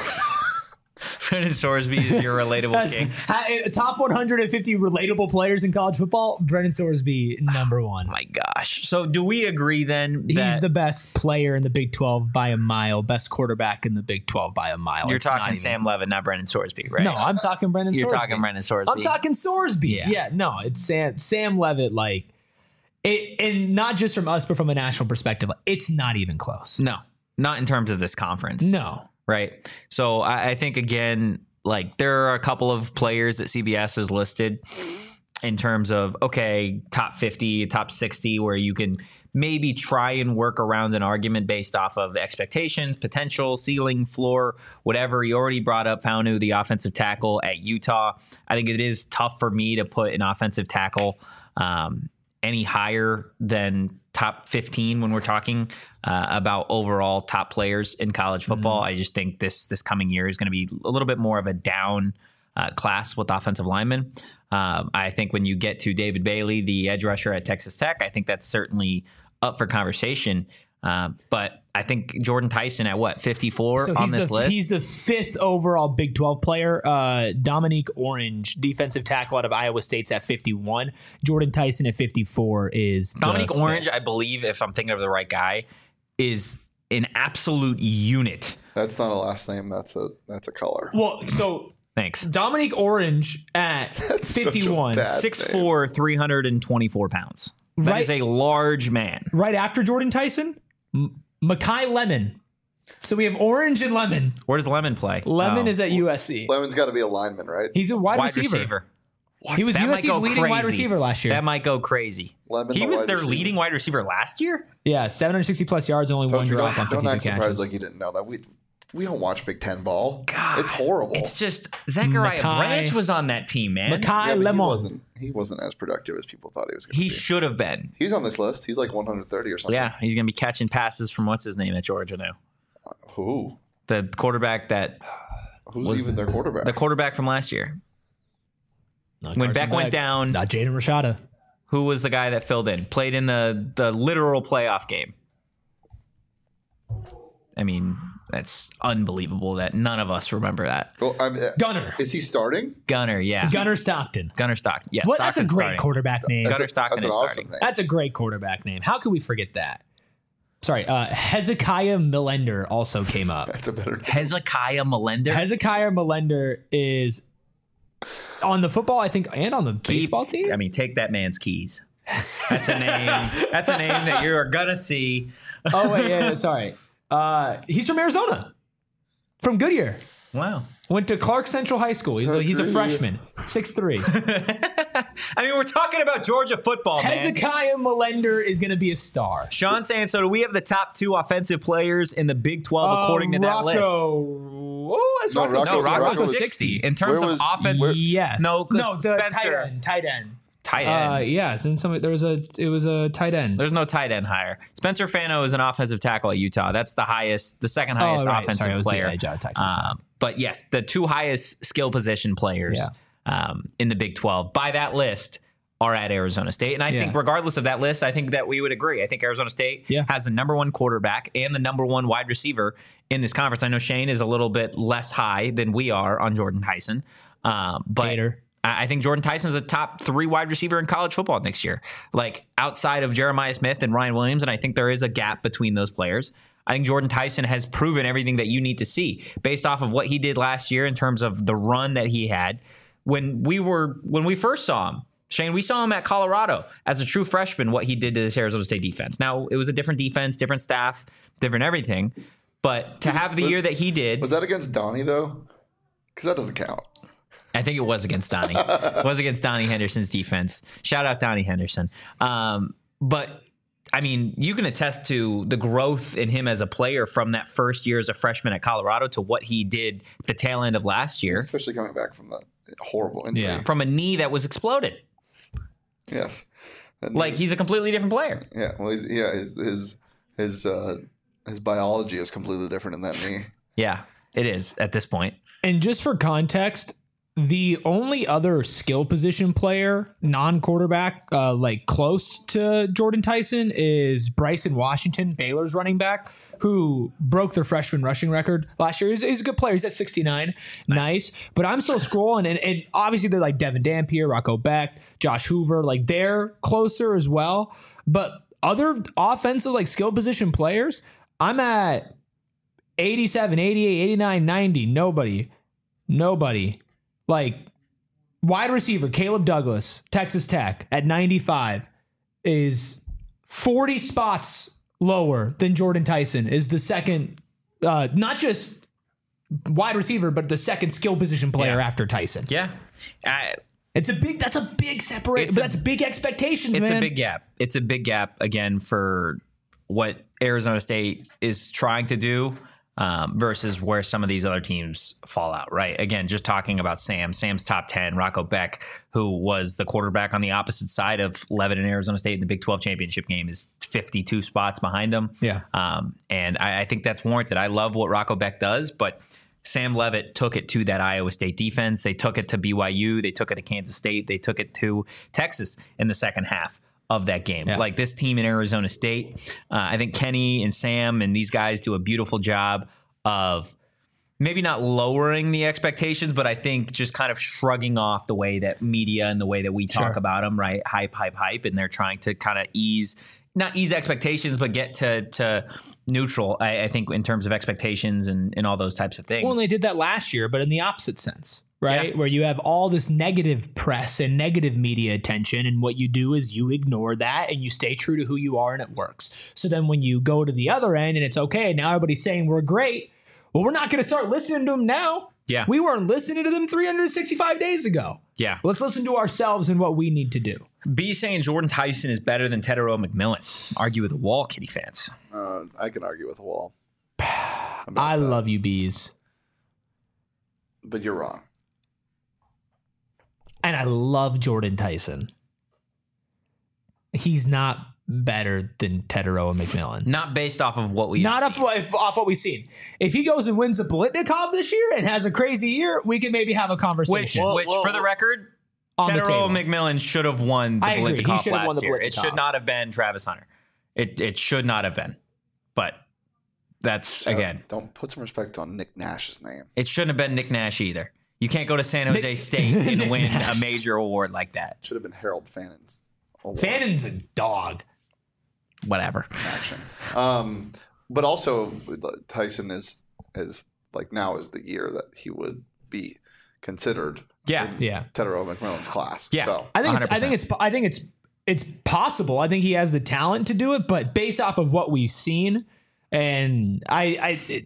Brandon Sorsby is your relatable That's- king. ha- top one hundred fifty relatable players in college football. Brendan Sorsby, number one. My gosh. So do we agree then He's that the best player in the Big twelve by a mile, best quarterback in the Big twelve by a mile. you're It's not talking even- Sam Levitt, not Brandon Sorsby, right? No, I'm talking Brendan You're Sorsby. talking Brandon Sorsby. I'm talking Sorsby. Yeah. Yeah. no, it's Sam Sam Levitt. Like, it, and not just from us, but from a national perspective, it's not even close. No, not in terms of this conference. No. Right. So I, I think, again, like there are a couple of players that C B S has listed in terms of, okay, top fifty, top sixty, where you can maybe try and work around an argument based off of expectations, potential, ceiling, floor, whatever. You already brought up Faunu, the offensive tackle at Utah. I think it is tough for me to put an offensive tackle um, any higher than top fifteen when we're talking uh, about overall top players in college football. Mm-hmm. I just think this this coming year is going to be a little bit more of a down uh, class with offensive linemen. Um, I think when you get to David Bailey, the edge rusher at Texas Tech, I think that's certainly up for conversation. Uh, but I think Jordan Tyson at what, fifty-four So on he's this the, list? He's the fifth overall Big twelve player. Uh, Dominique Orange, defensive tackle out of Iowa State's at fifty-one. Jordan Tyson at fifty-four is the Dominique fifth. Orange, I believe, if I'm thinking of the right guy, is an absolute unit. That's not a last name. That's a that's a color. Well, so Thanks. Dominique Orange at That's such a fifty-one. bad six name. four, three hundred twenty-four pounds. That Right. is a large man. Right after Jordan Tyson, M- Makai Lemon. So we have Orange and Lemon. Where does Lemon play? Lemon Oh. is at U S C. Lemon's got to be a lineman, right? He's a wide, wide receiver. receiver. He was That might U S C's go leading wide crazy. receiver last year. That might go crazy. Lemon, he the was wide their receiver. leading wide receiver last year? yeah, seven hundred sixty plus yards, only Told one you, drop don't, on don't fifty-two act surprised catches. like you didn't know that. We we don't watch Big Ten ball. God, It's horrible. It's just Zachariah Makai- Branch was on that team, man. Makai yeah, but he Lemon. wasn't. He wasn't as productive as people thought he was going to He be. should have been. He's on this list. He's like one hundred thirty or something. Yeah, he's going to be catching passes from what's his name at Georgia now. Who? The quarterback that Who's Was even their quarterback? the quarterback from last year. Not When Carson Beck went Beck. down, Not Jaden Rashada. who was the guy that filled in? Played in the the literal playoff game. I mean, that's unbelievable that none of us remember that. Well, I'm, uh, Gunner. is he starting? Gunner, yeah. Gunner Stockton. Gunner Stockton. Yeah, What? That's a Stockton's great starting. quarterback name. Gunner That's, a, Stockton that's an is awesome starting. name. That's a great quarterback name. How could we forget that? Sorry, uh, Hezekiah Millender also came up. That's a better name. Hezekiah Melender. Hezekiah Millender is on the football, I think, and on the baseball team. I mean, take that man's keys. That's a name. That's a name that you are gonna see. Oh wait, yeah, yeah, sorry. Uh, he's from Arizona, from Goodyear. Wow. Went to Clark Central High School. He's a, he's a freshman, six three. I mean, we're talking about Georgia football, man. Hezekiah Millender is going to be a star. Sean saying, so do we have the top two offensive players in the Big twelve according to that Rocco. list? Oh, that's No, Rocco. Rocco's- No, Rocco's Rocco's sixty. In terms Where of was- offense, where- Yes. No, 'cause no, the Spencer- tight end. Tight end. tight Uh, end. yes, and some there was a it was a tight end. There's no tight end higher. Spencer Fano is an offensive tackle at Utah. That's the highest, the second highest Oh, right. offensive Sorry, it was the player. edge out of Texas. Um, but yes, the two highest skill position players Yeah. um, in the Big twelve by that list are at Arizona State. And I Yeah. think regardless of that list, I think that we would agree. I think Arizona State Yeah. has the number one quarterback and the number one wide receiver in this conference. I know Shane is a little bit less high than we are on Jordan Tyson. Um, but Hater. I I think Jordan Tyson is a top three wide receiver in college football next year, like outside of Jeremiah Smith and Ryan Williams. And I think there is a gap between those players. I think Jordan Tyson has proven everything that you need to see based off of what he did last year in terms of the run that he had. When we were when we first saw him, Shane, we saw him at Colorado as a true freshman, what he did to this Arizona State defense. Now, it was a different defense, different staff, different everything. But to have the was- year that he did, Was that against Donnie, though? Because that doesn't count. I think it was against Donnie. It was against Donnie Henderson's defense. Shout out Donnie Henderson. Um, but I mean, you can attest to the growth in him as a player from that first year as a freshman at Colorado to what he did at the tail end of last year Especially coming back from the horrible injury. Yeah. from a knee that was exploded. Yes. And Like he's a completely different player. yeah. Well, he's, yeah. His his his uh, his biology is completely different in that knee. Yeah, it is at this point. And just for context, the only other skill position player, non-quarterback, uh, like close to Jordan Tyson is Bryson Washington, Baylor's running back, who broke their freshman rushing record last year. He's, he's a good player. He's at sixty-nine. Nice. But I'm still scrolling, and, and obviously they're like Devin Dampier, Rocco Beck, Josh Hoover. Like they're closer as well. But other offensive, like skill position players, I'm at eighty-seven, eighty-eight, eighty-nine, ninety. Nobody. Nobody. Like wide receiver, Caleb Douglas, Texas Tech at ninety-five is forty spots lower than Jordan Tyson, is the second, uh, not just wide receiver, but the second skill position player Yeah. after Tyson. Yeah. I, It's a big, that's a big separate, It's but a- that's big expectations, It's man. a big gap. It's a big gap again for what Arizona State is trying to do um, versus where some of these other teams fall out, right? Again, just talking about Sam. Sam's top ten. Rocco Beck, who was the quarterback on the opposite side of Levitt and Arizona State in the Big twelve championship game, is fifty-two spots behind him. Yeah. Um, and I, I think that's warranted. I love what Rocco Beck does, but Sam Levitt took it to that Iowa State defense. They took it to B Y U. They took it to Kansas State. They took it to Texas in the second half of that game. Yeah. Like this team in Arizona State, uh, I think Kenny and Sam and these guys do a beautiful job of maybe not lowering the expectations, but I think just kind of shrugging off the way that media and the way that we talk Sure. about them, right? Hype, hype, hype. And they're trying to kind of ease not ease expectations, but get to to neutral. I, I think in terms of expectations and, and all those types of things. Well, and they did that last year, but in the opposite sense, right? Yeah. Where you have all this negative press and negative media attention, and what you do is you ignore that and you stay true to who you are, and it works. So then when you go to the other end and it's okay, now everybody's saying we're great. Well, we're not going to start listening to them now. Yeah. We weren't listening to them three hundred sixty-five days ago. Yeah. Let's listen to ourselves and what we need to do. B saying Jordan Tyson is better than Tetairoa McMillan. Argue with the wall, Kitty fans. Uh, I can argue with a wall. I that. love you, Bees. But you're wrong. And I love Jordan Tyson. He's not better than Tetairoa McMillan. Not based off of what we Not off, if, off what we've seen. If he goes and wins the Biletnikoff this year and has a crazy year, we can maybe have a conversation. Which, well, which well, for the record, Tetairoa McMillan should have won the Biletikoff last won the year. It should not have been Travis Hunter. It it should not have been. But that's, so, again. Don't put some respect on Nick Nash's name. It shouldn't have been Nick Nash either. You can't go to San Jose Nick, State and win Nash. a major award like that. Should have been Harold Fannon's award. Fannon's a dog. Whatever. Action. Um, but also, Tyson is, is like now is the year that he would be considered. Yeah, in yeah. Tetairoa McMillan's class. Yeah, so. I think it's, I think it's I think it's it's possible. I think he has the talent to do it, but based off of what we've seen, and I I it,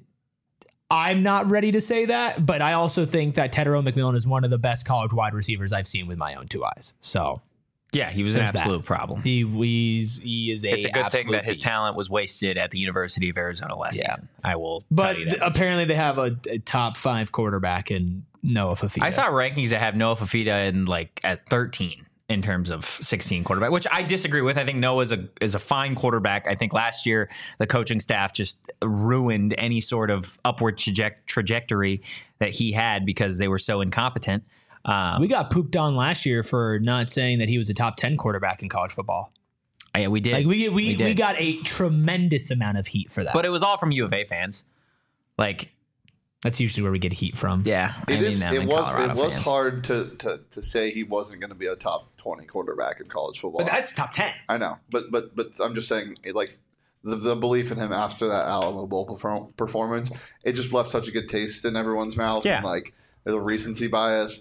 I'm not ready to say that, but I also think that Tetairoa McMillan is one of the best college wide receivers I've seen with my own two eyes. So. Yeah, he was an absolute that. problem. He he's, he is a It's a good thing that his beast. talent was wasted at the University of Arizona last yeah. season. I will But tell you that. apparently they have a, a top five quarterback in Noah Fafita. I saw rankings that have Noah Fafita in like at thirteen in terms of sixteen quarterback, which I disagree with. I think Noah is a is a fine quarterback. I think last year the coaching staff just ruined any sort of upward traje- trajectory that he had because they were so incompetent. Um, we got pooped on last year for not saying that he was a top ten quarterback in college football. Yeah, we did. Like we we, we, we got a tremendous amount of heat for that. But it was all from U of A fans. Like that's usually where we get heat from. Yeah, it is. It was. Colorado it was fans. hard to, to to say he wasn't going to be a top twenty quarterback in college football. But that's top ten. I know, but but but I'm just saying, like the, the belief in him after that Alamo Bowl perform, performance, it just left such a good taste in everyone's mouth. Yeah. And like the recency bias.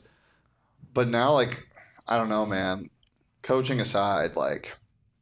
But now, like, I don't know, man. Coaching aside, like,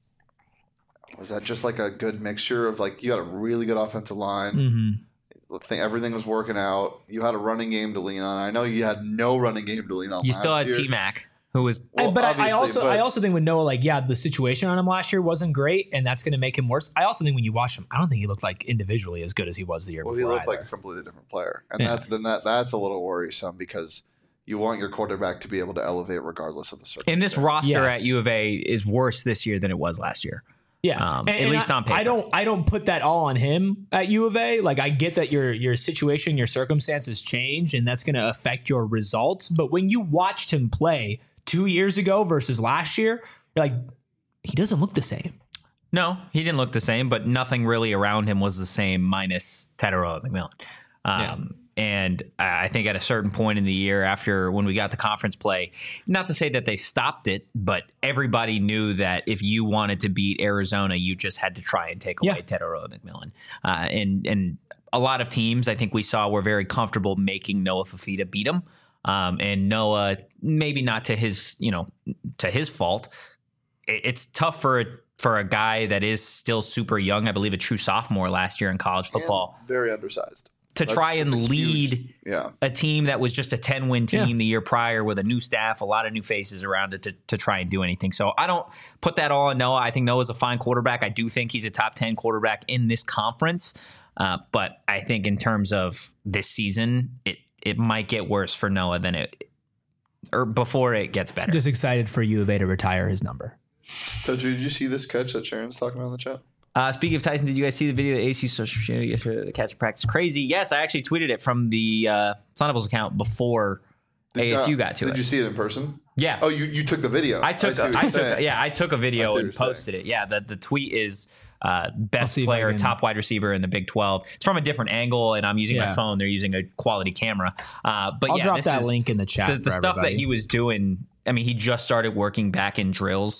was that just like a good mixture of like you had a really good offensive line, mm-hmm. think everything was working out. You had a running game to lean on. I know you had no running game to lean on. You last still had year. T-Mac, who was. Well, but I, I also but, I also think with Noah, like, yeah, the situation on him last year wasn't great, and that's going to make him worse. I also think when you watch him, I don't think he looked like individually as good as he was the year well, before. He looked either. like a completely different player, and Yeah. that then that that's a little worrisome because. You want your quarterback to be able to elevate regardless of the circumstance. And this roster Yes. at U of A is worse this year than it was last year. Yeah, Um, and, at and least I, on paper. I don't. I don't put that all on him at U of A. Like I get that your your situation, your circumstances change, and that's going to affect your results. But when you watched him play two years ago versus last year, you're like, he doesn't look the same. No, he didn't look the same, but nothing really around him was the same minus Tetairoa McMillan. Um, Yeah. And I think at a certain point in the year after when we got the conference play, not to say that they stopped it, but everybody knew that if you wanted to beat Arizona, you just had to try and take away Yeah. Tetairoa McMillan. Uh, and, and a lot of teams I think we saw were very comfortable making Noah Fafita beat him. Um, and Noah, maybe not to his, you know, to his fault. It, it's tough for a, for a guy that is still super young. I believe a true sophomore last year in college football. And very undersized. To That's- try and that's a lead huge- yeah. a team that was just a ten-win team Yeah. the year prior with a new staff, a lot of new faces around it to, to try and do anything. So I don't put that all on Noah. I think Noah's a fine quarterback. I do think he's a top ten quarterback in this conference. Uh, but I think in terms of this season, it it might get worse for Noah than it or before it gets better. Just excited for U of A to retire his number. So did you see this catch that Sharon's talking about in the chat? Uh, speaking of Tyson, did you guys see the video of A C social media yesterday? The catch practice crazy. Yes, I actually tweeted it from the uh, Sun Devils account before Did, A S U uh, got to did it. you see it in person? Yeah. Oh, you, you took the video. I took. see what I you're took. saying. Yeah, I took a I video see what and you're saying. posted it. Yeah, the the tweet is uh, best see if I player, can- top wide receiver in the Big twelve. It's from a different angle, and I'm using my Yeah. phone. They're using a quality camera. Uh, but I'll yeah, drop this that is link in the chat. the, the for stuff that everybody. he was doing. I mean, he just started working back in drills.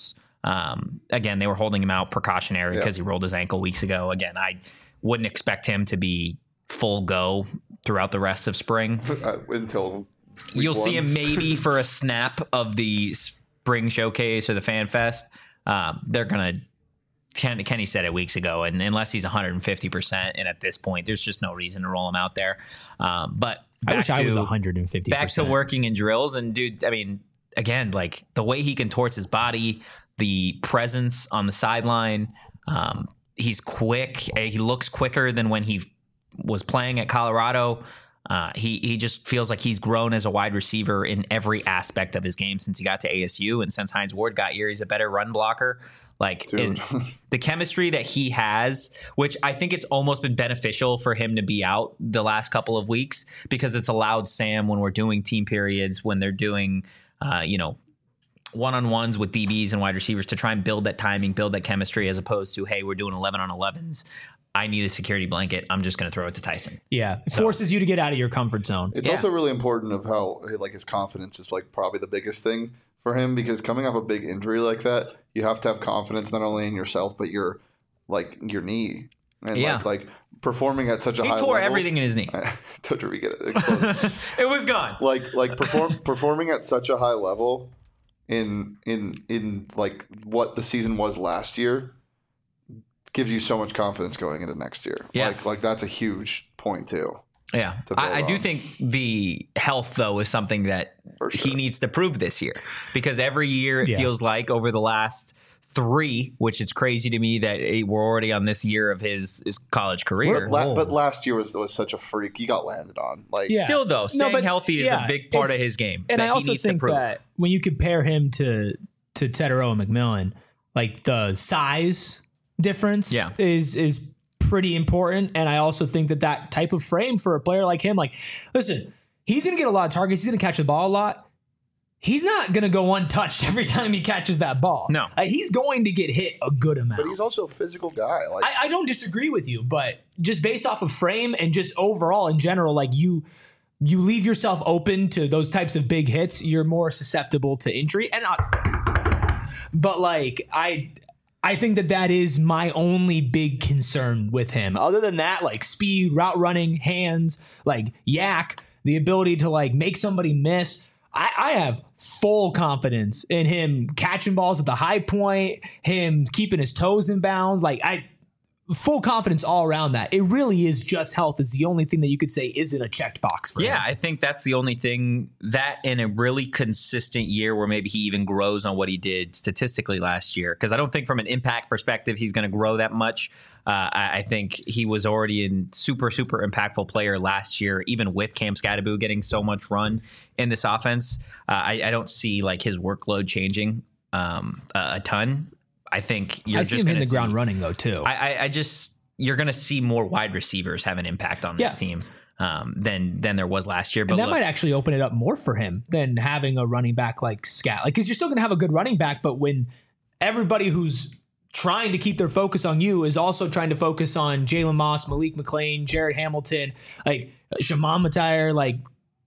Um, again, they were holding him out precautionary because Yeah. he rolled his ankle weeks ago. Again, I wouldn't expect him to be full go throughout the rest of spring. Uh, until week You'll see one. him maybe for a snap of the spring showcase or the fan fest. Um, they're gonna. Ken, Kenny said it weeks ago, and unless he's one hundred fifty percent, and at this point, there's just no reason to roll him out there. Um, but I wish back I was to- one hundred fifty percent. back to working in drills, and dude, I mean, again, like the way he contorts his body, the presence on the sideline. Um, he's quick. He looks quicker than when he was playing at Colorado. Uh, he he just feels like he's grown as a wide receiver in every aspect of his game since he got to A S U, and since Hines Ward got here, he's a better run blocker. Like in, the chemistry that he has, which I think it's almost been beneficial for him to be out the last couple of weeks because it's allowed Sam, when we're doing team periods, when they're doing, uh, you know, one-on-ones with D Bs and wide receivers, to try and build that timing, build that chemistry, as opposed to, hey, we're doing eleven on elevens. I need a security blanket. I'm just going to throw it to Tyson. Yeah, it forces you to get out of your comfort zone. It's Yeah. also really important of how like his confidence is like probably the biggest thing for him, because coming off a big injury like that, you have to have confidence not only in yourself but your like your knee and Yeah. like, like performing at such a He high tore level. everything in his knee. Don't you get it? Exploded. It was gone. like like perform performing at such a high level in in in like what the season was last year gives you so much confidence going into next year. Yeah. Like like that's a huge point too. Yeah, to build I, I do on. think the health, though, is something that For sure. he needs to prove this year, because every year it Yeah. feels like over the last three, which is crazy to me that it, we're already on this year of his, his college career. But, la- but last year was was such a freak. He got landed on. Like Yeah. Still, though, staying but- healthy is yeah, a big part it's- of his game And that I he also needs to think prove. that when you compare him to to Tetero and McMillan, like the size difference Yeah. is is pretty important. And I also think that that type of frame for a player like him, like, listen, he's going to get a lot of targets. He's going to catch the ball a lot. He's not going to go untouched every time he catches that ball. No. Uh, he's going to get hit a good amount. But he's also a physical guy. Like I, I don't disagree with you, but just based off of frame and just overall in general, like you you leave yourself open to those types of big hits, you're more susceptible to injury. And I, but like I I think that that is my only big concern with him. Other than that, like speed, route running, hands, like yak, the ability to like make somebody miss. I, I have full confidence in him catching balls at the high point, him keeping his toes in bounds. Like I, full confidence all around that. It really is just health is the only thing that you could say isn't a checked box for Yeah, him. I think that's the only thing, that in a really consistent year where maybe he even grows on what he did statistically last year. Because I don't think from an impact perspective he's going to grow that much. Uh, I, I think he was already a super, super impactful player last year, even with Cam Scatterbo getting so much run in this offense. Uh, I, I don't see like his workload changing um, a, a ton. I think you're I just see him going in to the ground running though too. I, I, I just you're going to see more wide receivers have an impact on this Yeah. team um, than than there was last year. But and that look, might actually open it up more for him than having a running back like Scat. Like, because you're still going to have a good running back, but when everybody who's trying to keep their focus on you is also trying to focus on Jalen Moss, Malik McClain, Jared Hamilton, like Shaman Matire, like,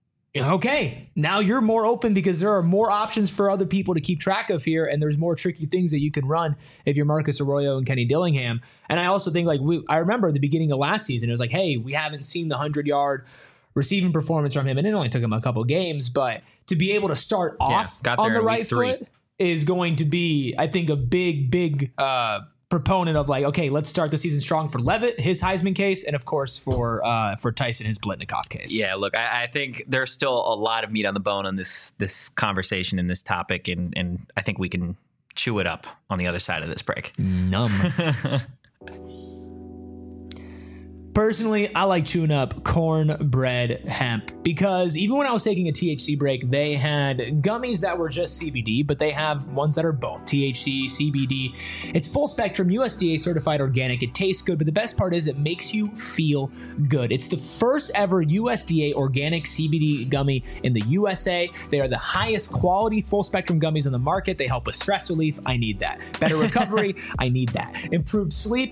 okay, now you're more open because there are more options for other people to keep track of here, and there's more tricky things that you can run if you're Marcus Arroyo and Kenny Dillingham. And I also think, like, we, I remember at the beginning of last season, it was like, hey, we haven't seen the hundred-yard receiving performance from him, and it only took him a couple games, but to be able to start off got on there the in week right three. foot is going to be, I think, a big, big uh, proponent of like, okay, let's start the season strong for Levitt, his Heisman case, and of course for uh, for Tyson, his Blitnikoff case. yeah, look, I, I think there's still a lot of meat on the bone on this this conversation and this topic, and and I think we can chew it up on the other side of this break. Numb. Personally, I like chewing up cornbread hemp because even when I was taking a T H C break, they had gummies that were just C B D, but they have ones that are both T H C, C B D. It's full spectrum, U S D A certified organic. It tastes good, but the best part is it makes you feel good. It's the first ever U S D A organic C B D gummy in the U S A. They are the highest quality full spectrum gummies on the market. They help with stress relief. I need that. Better recovery. I need that. Improved sleep.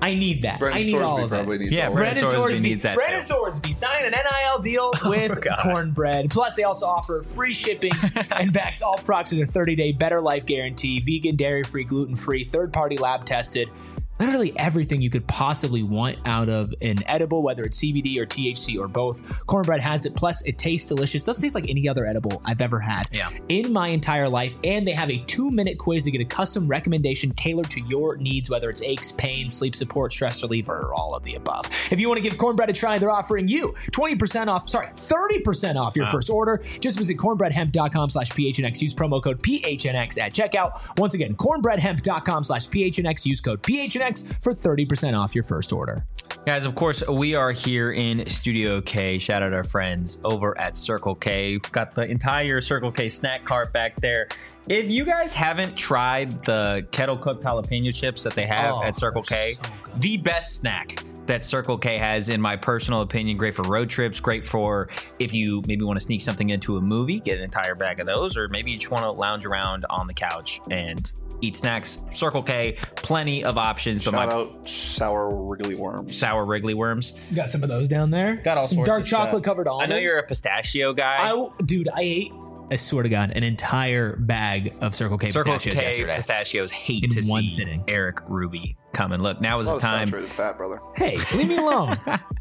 I need that. Brandon I need Sorsby all of probably it. needs Yeah, all Brandon of it. Brandon Sorsby Sorsby needs that Brandon too. Sorsby sign an N I L deal with God. Cornbread. Plus, they also offer free shipping and backs all products with a thirty-day Better Life guarantee, vegan, dairy-free, gluten-free, third-party lab tested. Literally everything you could possibly want out of an edible, whether it's C B D or T H C or both. Cornbread has it. Plus, it tastes delicious. Doesn't taste like any other edible I've ever had Yeah. in my entire life. And they have a two-minute quiz to get a custom recommendation tailored to your needs, whether it's aches, pain, sleep support, stress reliever, or all of the above. If you want to give Cornbread a try, they're offering you twenty percent off, sorry, thirty percent off your Wow. first order. Just visit cornbreadhemp.com slash PHNX. Use promo code P H N X at checkout. Once again, cornbreadhemp.com slash PHNX. Use code P H N X for thirty percent off your first order. Guys, of course, we are here in Studio K. Shout out our friends over at Circle K. Got the entire Circle K snack cart back there. If you guys haven't tried the kettle cooked jalapeno chips that they have Oh, at Circle K, they're so good. the best snack that Circle K has, in my personal opinion. Great for road trips, great for if you maybe want to sneak something into a movie, get an entire bag of those, or maybe you just want to lounge around on the couch and eat snacks. Circle K, plenty of options. But Shout my out sour wriggly worms. sour wriggly worms. Got some of those down there. Got all some sorts dark of chocolate stuff. covered I almonds. know you're a pistachio guy. I, dude, I ate, I swear to God, an entire bag of Circle K Circle pistachios K yesterday. pistachios hate In to one see sitting. Eric Ruby come and look. Now is A the lot of time. saturated fat, brother. Hey, leave me alone.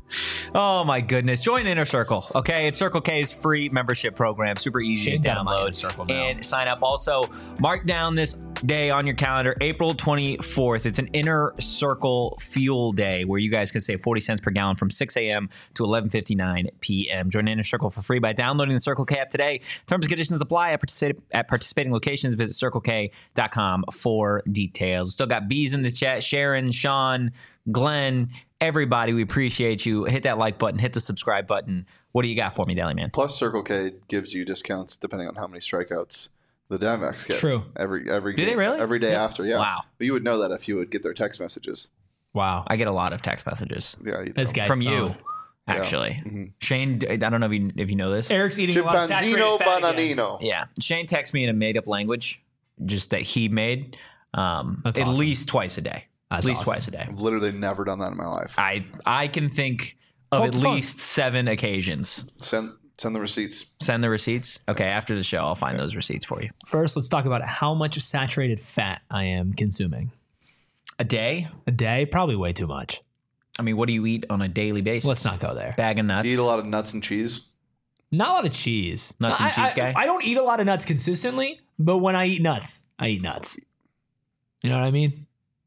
Oh my goodness! Join Inner Circle. Okay, it's Circle K's free membership program. Super easy Shane's to on my Inner download Circle now. and sign up. Also, mark down this day on your calendar, April twenty-fourth. It's an Inner Circle Fuel Day where you guys can save forty cents per gallon from six a.m. to eleven fifty-nine p.m. Join Inner Circle for free by downloading the Circle K app today. Terms and conditions apply at, particip- at participating locations. Visit circle k dot com for details. Still got bees in the chat. Sharon, Sean, Glenn, everybody, we appreciate you. Hit that like button, hit the subscribe button. What do you got for me, Deli Man? Plus, Circle K gives you discounts depending on how many strikeouts the Diamondbacks get. True. Every every Do they game- really? every day after. Yeah. Wow. But you would know that if you would get their text messages. Wow. I get a lot of text messages Yeah. You This know. guy's from you, phone. actually. Mhm. Shane, I don't know if you, if you know this. Eric's eating a lot of saturated Chimpanzino fat again. bananino. Yeah. Shane texts me in a made up language just that he made um, That's at awesome. least twice a day. That's at least awesome. twice a day. I've literally never done that in my life. I I can think of Poke at the fun. least seven occasions. Send send the receipts. Send the receipts. Okay, after the show, I'll find those receipts for you. First, let's talk about how much saturated fat I am consuming. A day? A day? Probably way too much. I mean, what do you eat on a daily basis? Let's not go there. Bag of nuts. Do you eat a lot of nuts and cheese? Not a lot of cheese. Nuts and I- cheese I, guy? I don't eat a lot of nuts consistently, but when I eat nuts, I eat nuts. You know what I mean?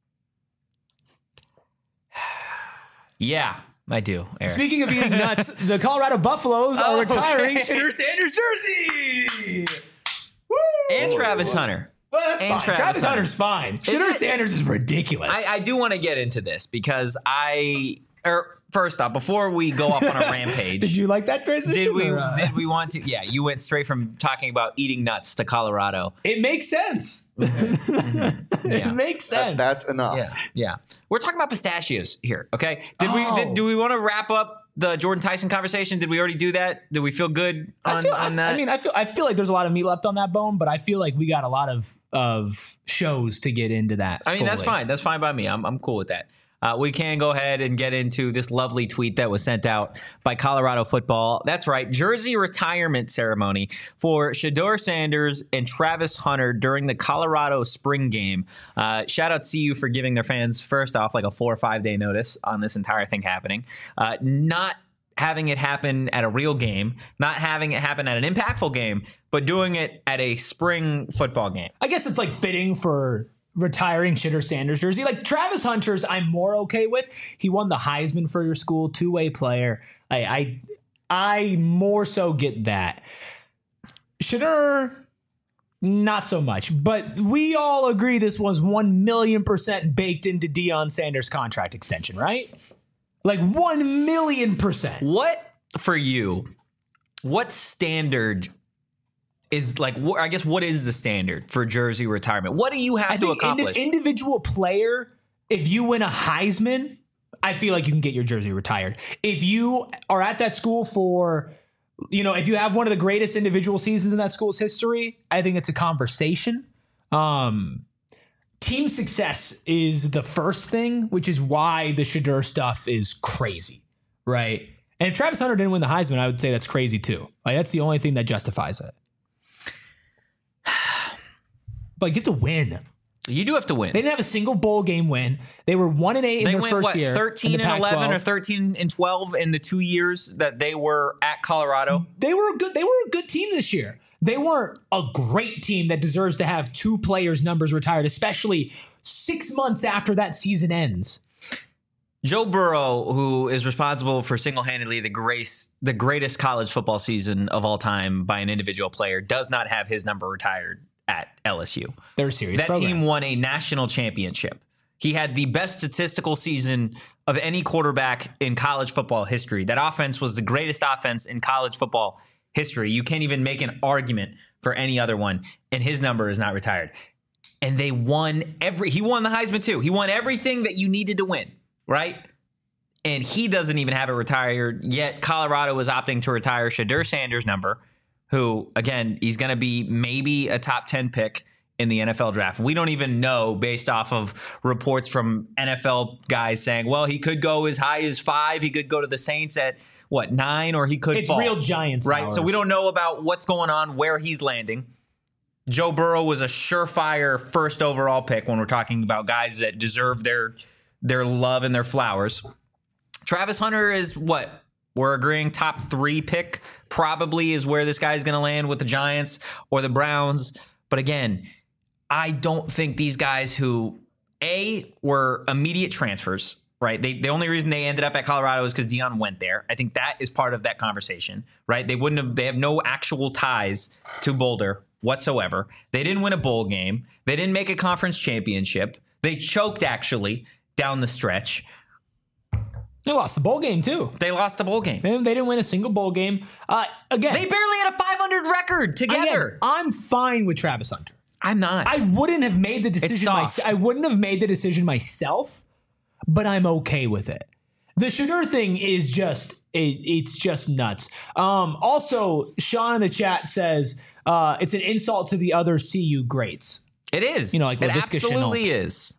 Yeah, I do. Eric. Speaking of eating nuts, the Colorado Buffaloes Oh, are retiring okay. Shitter Sanders jersey. Woo! and Travis Hunter. Well, that's and fine. Travis Travis, Hunter. Hunter's fine. Shitter it- Sanders is ridiculous. I, I do want to get into this because I, or first off, before we go off on a rampage, Did you like that transition? did we or, uh, did we want to? Yeah, you went straight from talking about eating nuts to Colorado. It makes sense. Yeah. It makes That- sense. that's enough. Yeah, yeah. We're talking about pistachios here. Okay. Did Oh. we? Did, do we want to wrap up the Jordan Tyson conversation? Did we already do that? Did we feel good on, I feel, on I, that? I mean, I feel I feel like there's a lot of meat left on that bone, but I feel like we got a lot of of shows to get into that. I mean, that's fully. fine. That's fine by me. I'm I'm cool with that. Uh, we can go ahead and get into this lovely tweet that was sent out by Colorado football. That's right, jersey retirement ceremony for Shedeur Sanders and Travis Hunter during the Colorado spring game. Uh, shout out C U for giving their fans, first off, like a four or five day notice on this entire thing happening. Uh, not having it happen at a real game, not having it happen at an impactful game, but doing it at a spring football game. I guess it's like fitting for retiring Shitter Sanders jersey. Like Travis Hunter's, I'm more okay with. He won the Heisman for your school, two way player. I I, I more so get that. Shitter, not so much. But we all agree this was one million percent baked into Deion Sanders' contract extension, right? Like one million percent. What for you? What standard is like? Wh- I guess what is the standard for jersey retirement? What do you have I to think indi- accomplish? individual player, if you win a Heisman, I feel like you can get your jersey retired. If you are at that school for, you know, if you have one of the greatest individual seasons in that school's history, I think it's a conversation. Um, team success is the first thing, which is why the Shedeur stuff is crazy, right? And if Travis Hunter didn't win the Heisman, I would say that's crazy too. Like that's the only thing that justifies it. But you have to win. You do have to win. They didn't have a single bowl game win. They were one and eight in they their went, first what, year. thirteen and eleven or thirteen and twelve in the two years that they were at Colorado. They were a good. They were a good team this year. They weren't a great team that deserves to have two players' numbers retired, especially six months after that season ends. Joe Burrow, who is responsible for single-handedly the grace, the greatest college football season of all time by an individual player, does not have his number retired at L S U. They're a serious That program. team won a national championship. He had the best statistical season of any quarterback in college football history. That offense was the greatest offense in college football history. You can't even make an argument for any other one, and his number is not retired. And they won every, he won the Heisman too. He won everything that you needed to win, right? And he doesn't even have it retired, yet Colorado is opting to retire Shedeur Sanders' number, who, again, he's going to be maybe a top ten pick in the N F L draft. We don't even know based off of reports from N F L guys saying, well, he could go as high as five. He could go to the Saints at, what, nine, or he could It's fall. real Giants right? hours. So we don't know about what's going on, where he's landing. Joe Burrow was a surefire first overall pick when we're talking about guys that deserve their their love and their flowers. Travis Hunter is what? We're agreeing top three pick probably is where this guy's going to land with the Giants or the Browns. But again, I don't think these guys who, A, were immediate transfers, right? They, the only reason they ended up at Colorado is because Deion went there. I think that is part of that conversation, right? They wouldn't have, they have no actual ties to Boulder whatsoever. They didn't win a bowl game. They didn't make a conference championship. They choked actually down the stretch. They lost the bowl game too. They lost the bowl game. They, they didn't win a single bowl game. Uh, again, They barely had a five hundred record together. again, I'm fine with Travis Hunter. I'm not. I wouldn't have made the decision. soft. Myself. I wouldn't have made the decision myself, but I'm okay with it. The Shedeur thing is just it, it's just nuts. Um, also, Sean in the chat says uh, it's an insult to the other C U greats. It is. You know, like it Laviska absolutely is.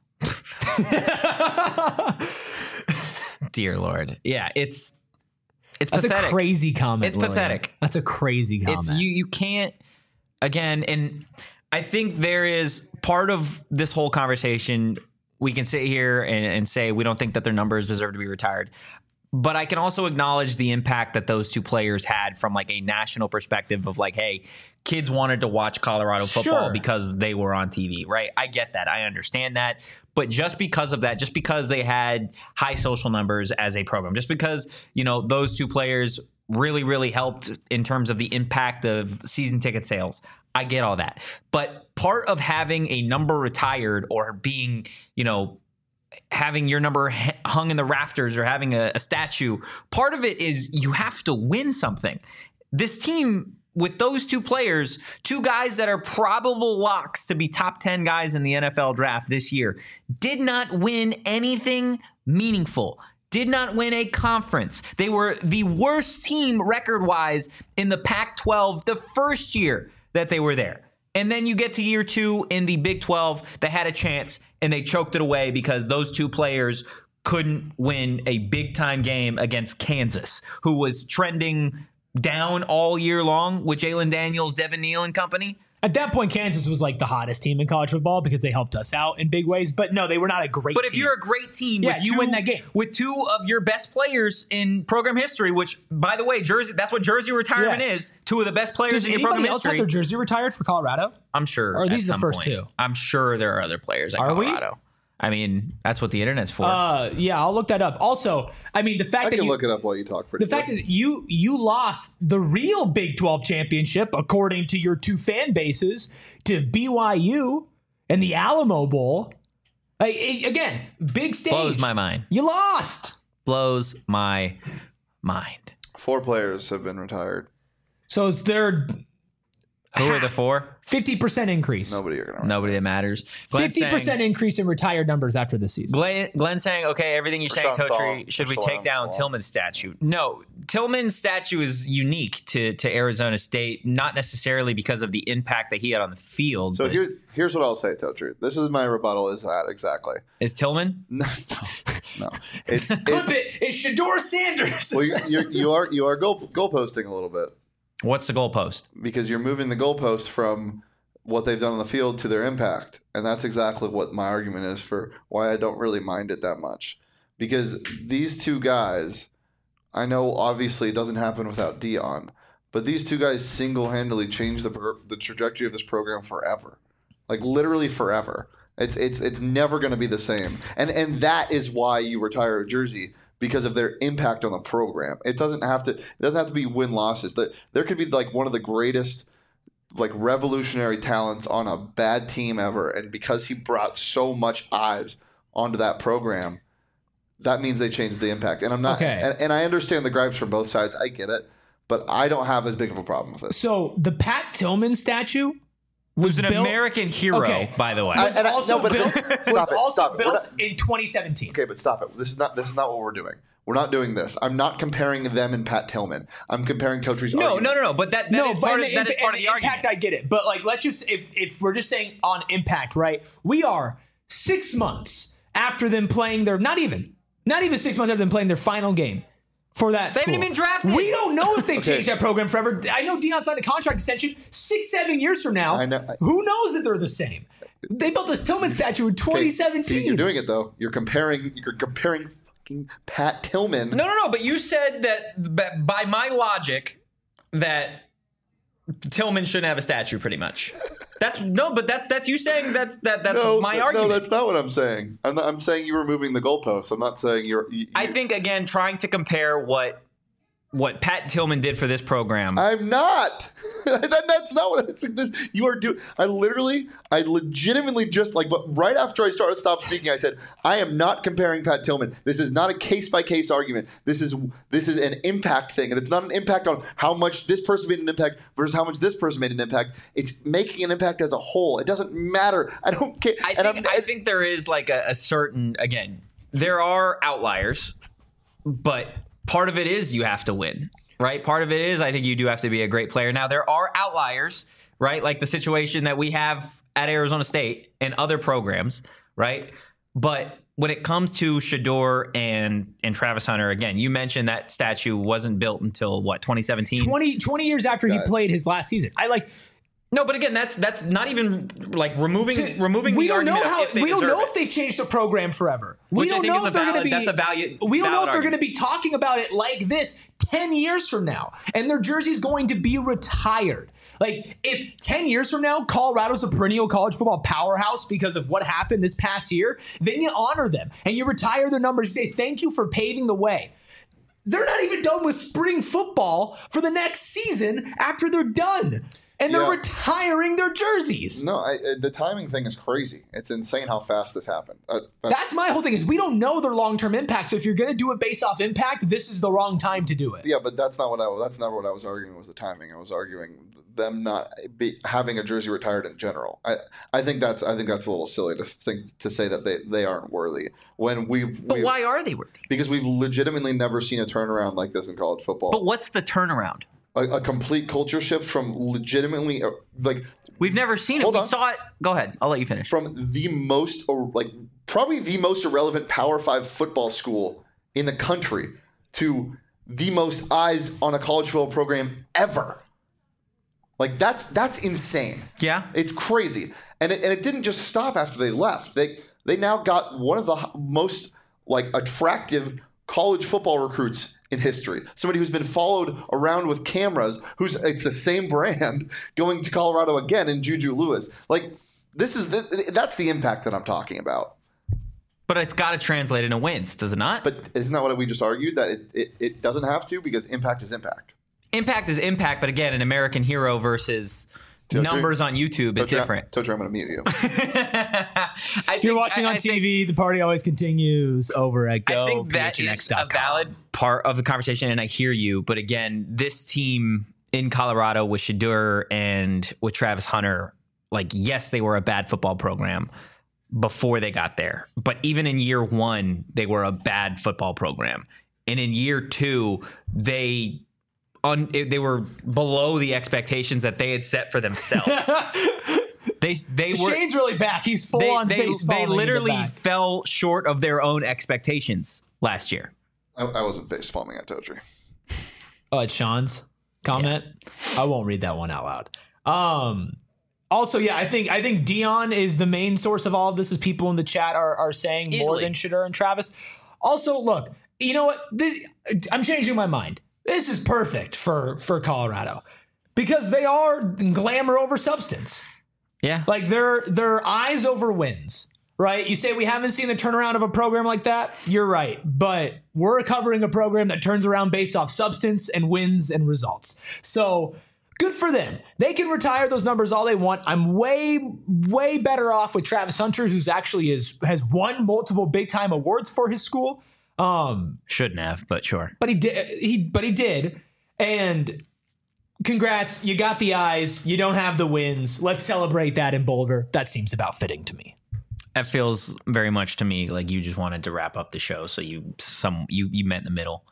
Dear Lord. Yeah, it's it's That's pathetic. a crazy comment. It's William. pathetic. That's a crazy comment. It's you you can't again, and I think there is part of this whole conversation. We can sit here and, and say we don't think that their numbers deserve to be retired. But I can also acknowledge the impact that those two players had from like a national perspective of like, hey, kids wanted to watch Colorado football Sure. because they were on T V, right? I get that. I understand that. But just because of that, just because they had high social numbers as a program, just because, you know, those two players really, really helped in terms of the impact of season ticket sales, I get all that. But part of having a number retired or being, you know, having your number hung in the rafters or having a, a statue, part of it is you have to win something. This team with those two players, two guys that are probable locks to be top ten guys in the N F L draft this year, did not win anything meaningful, did not win a conference. They were the worst team record-wise in the Pac twelve the first year that they were there. And then you get to year two in the Big twelve, they had a chance and they choked it away because those two players couldn't win a big-time game against Kansas, who was trending down all year long with Jalen Daniels, Devin Neal and company. At that point, Kansas was like the hottest team in college football because they helped us out in big ways. But no, they were not a great But team. if you're a great team, Yeah, with you two, win that game. with two of your best players in program history, which, by the way, Jersey, that's what Jersey retirement Yes. is. Two of the best players Does in your anybody program else have history. their jersey retired for Colorado? I'm sure. Or are at these the some first point. two? I'm sure there are other players at Are we? Colorado. I mean, that's what the internet's for. Uh, yeah, I'll look that up. Also, I mean, the fact I that can you, look it up while you talk. Pretty the fact quick. is you you lost the real Big twelve championship, according to your two fan bases, to B Y U and the Alamo Bowl. Like, it- again, big stage. Blows my mind. You lost. Blows my mind. four players have been retired. So it's their Who are the Half. four? fifty percent increase. Nobody are gonna. Nobody that matters. Glenn fifty percent saying, increase in retired numbers after this season. Glenn, Glenn saying, okay, everything you're saying, Rashawn Totri, Saul- should we Rashawn take down Saul. Tillman's statue? No, Tillman's statue is unique to, to Arizona State, not necessarily because of the impact that he had on the field. So but here's here's what I'll say, Totri. This is my rebuttal. Is that exactly? is Tillman? No, no. It's Clip it's. it. It's Shador Sanders. Well, you you're, you are you are goal goalposting a little bit What's the goalpost? because you're moving the goalpost from what they've done on the field to their impact, and that's exactly what my argument is for why I don't really mind it that much. Because these two guys, I know obviously it doesn't happen without Dion, but these two guys single-handedly changed the pro- the trajectory of this program forever, like literally forever. It's it's it's never going to be the same, and and that is why you retire a jersey. Because of their impact on the program, it doesn't have to. It doesn't have to be win losses. That there could be like one of the greatest, like revolutionary talents on a bad team ever, and because he brought so much eyes onto that program, that means they changed the impact. And I'm not. Okay. And, and I understand the gripes from both sides. I get it, but I don't have as big of a problem with it. So the Pat Tillman statue was Who's an built, American hero, Okay. by the way. I- was and also no, but- built, stop was it, also stop it. We're built not- in twenty seventeen. Okay, but stop it. This is not. This is not what we're doing. We're not doing this. I'm not comparing them and Pat Tillman. I'm comparing Totri's no, argument. no, no, no. But that, that no, is but part of, in that is in- part of in the argument. impact, I get it. But like, let's just if if we're just saying on impact, right? We are six months after them playing their not even not even six months after them playing their final game for that. They haven't school. even drafted. We don't know if they've Okay. changed that program forever. I know Dion signed a contract extension six, seven years from now. I know. Who knows if they're the same? They built this Tillman statue in Okay, twenty see, seventeen. you're doing it though. You're comparing. You're comparing fucking Pat Tillman. No, no, no. But you said that b- by my logic that Tillman shouldn't have a statue. Pretty much. That's no, but that's that's you saying that's that that's no, my no, argument. that's not what I'm saying. I'm, not, I'm saying you were moving the goalposts. I'm not saying you're. You, I think again trying to compare what what Pat Tillman did for this program. I'm not. that, that's not what it's this. You are doing. I literally, I legitimately just like, but right after I started stopped speaking, I said, I am not comparing Pat Tillman. This is not a case by case argument. This is this is an impact thing, and it's not an impact on how much this person made an impact versus how much this person made an impact. It's making an impact as a whole. It doesn't matter. I don't care. I and think I'm, I think there is like a, a certain again. There are outliers, but part of it is you have to win, right? Part of it is I think you do have to be a great player. Now there are outliers, right? Like the situation that we have at Arizona State and other programs, right? But when it comes to Shador and and Travis Hunter, again, you mentioned that statue wasn't built until what twenty seventeen. twenty, twenty years after he Guys. played his last season. I like. No, but again, that's that's not even like removing To- removing we the don't know argument of how if they we don't deserve know it. if they've changed the program forever. We Which I don't think know is if a they're going to valid- be. that's a value- we don't know valid if they're going to argument. be talking about it like this ten years from now, and their jersey's going to be retired. Like if ten years from now, Colorado's a perennial college football powerhouse because of what happened this past year, then you honor them and you retire their numbers. You say thank you for paving the way. They're not even done with spring football for the next season after they're done. And they're Yeah. retiring their jerseys. no, I, uh, the timing thing is crazy. It's insane how fast this happened. Uh, that's, That's my whole thing is we don't know their long-term impact. So if you're going to do it based off impact, this is the wrong time to do it. Yeah, but that's not what I. That's not what I was arguing. Was the timing? I was arguing them not be, having a jersey retired in general. I, I think that's. I think that's a little silly to think to say that they, they aren't worthy when we've. But we've, why are they worthy? Because we've legitimately never seen a turnaround like this in college football. But what's the turnaround? a, a complete culture shift from legitimately uh, like We've never seen it. Hold We on. saw it. Go ahead. I'll let you finish. from the most or like probably the most irrelevant Power Five football school in the country to the most eyes on a college football program ever. Like that's that's insane. Yeah. It's crazy, and it, and it didn't just stop after they left. They they now got one of the h- most like attractive college football recruits in history. Somebody who's been followed around with cameras. Who's it's the same brand going to Colorado again in Juju Lewis. Like this is the, that's the impact that I'm talking about. But it's got to translate into wins, does it not? But isn't that what we just argued that it, it, it doesn't have to because impact is impact. Impact is impact, but again, an American hero versus Totri- numbers on YouTube is Totri, different. Totri, I'm going to mute you. I If you're watching on T V, the party always continues over at I go think that P H N X is dot a com. valid part of the conversation, and I hear you. But again, this team in Colorado with Shadur and with Travis Hunter, like, yes, they were a bad football program before they got there. But even in year one, they were a bad football program. And in year two, they un, they were below the expectations that they had set for themselves. they they were Shane's really back. He's full they, on they, face they palming literally into the back. fell short of their own expectations last year. I, I wasn't face palming at Totri. Oh, it's Sean's comment. I won't read that one out loud. Um, also, yeah, I think I think Dion is the main source of all of this, as people in the chat are are saying more Easily. than Shadur and Travis. Also, look, you know what? This, I'm changing my mind. This is perfect for for Colorado because they are glamour over substance. Yeah. Like they're they're eyes over wins. Right? You say we haven't seen the turnaround of a program like that. You're right. But we're covering a program that turns around based off substance and wins and results. So good for them. They can retire those numbers all they want. I'm way, way better off with Travis Hunter, who's actually is, has won multiple big time awards for his school. Um, Shouldn't have, but sure. but he did. He but he did. And congrats. You got the eyes. You don't have the wins. Let's celebrate that in Boulder. That seems about fitting to me. That feels very much to me like you just wanted to wrap up the show, so you some you you met in the middle.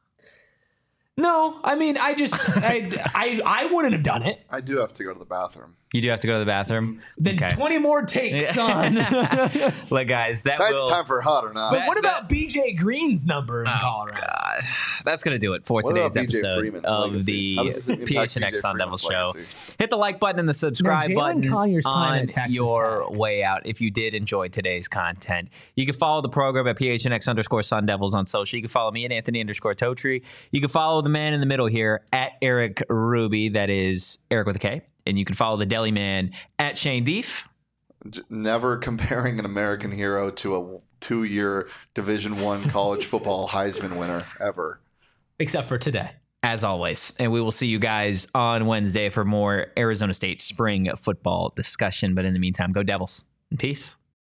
No, I mean, I just, I, I, I wouldn't have done it. I do have to go to the bathroom. You do have to go to the bathroom. Then Okay. twenty more takes, son. Look, guys, that So it's will. time for hot or not. But That- what about B J Green's number in Oh, Colorado? God. That's going to do it for What today's about B J episode Freeman's of legacy? How does this the impact P H N X B J Sun Devils Freeman's show. legacy? Hit the like button and the subscribe Jalen button Collier's time on at Texas your Tech. way out if you did enjoy today's content. You can follow the program at P H N X underscore Sun Devils on social. You can follow me at Anthony underscore Totri. You can follow the man in the middle here at Eric Ruby. That is Eric with a K. And you can follow the Deli Man at Shane Deef. J- Never comparing an American hero to a two-year Division One college football Heisman winner ever. Except for today. As always. And we will see you guys on Wednesday for more Arizona State spring football discussion. But in the meantime, go Devils. And peace.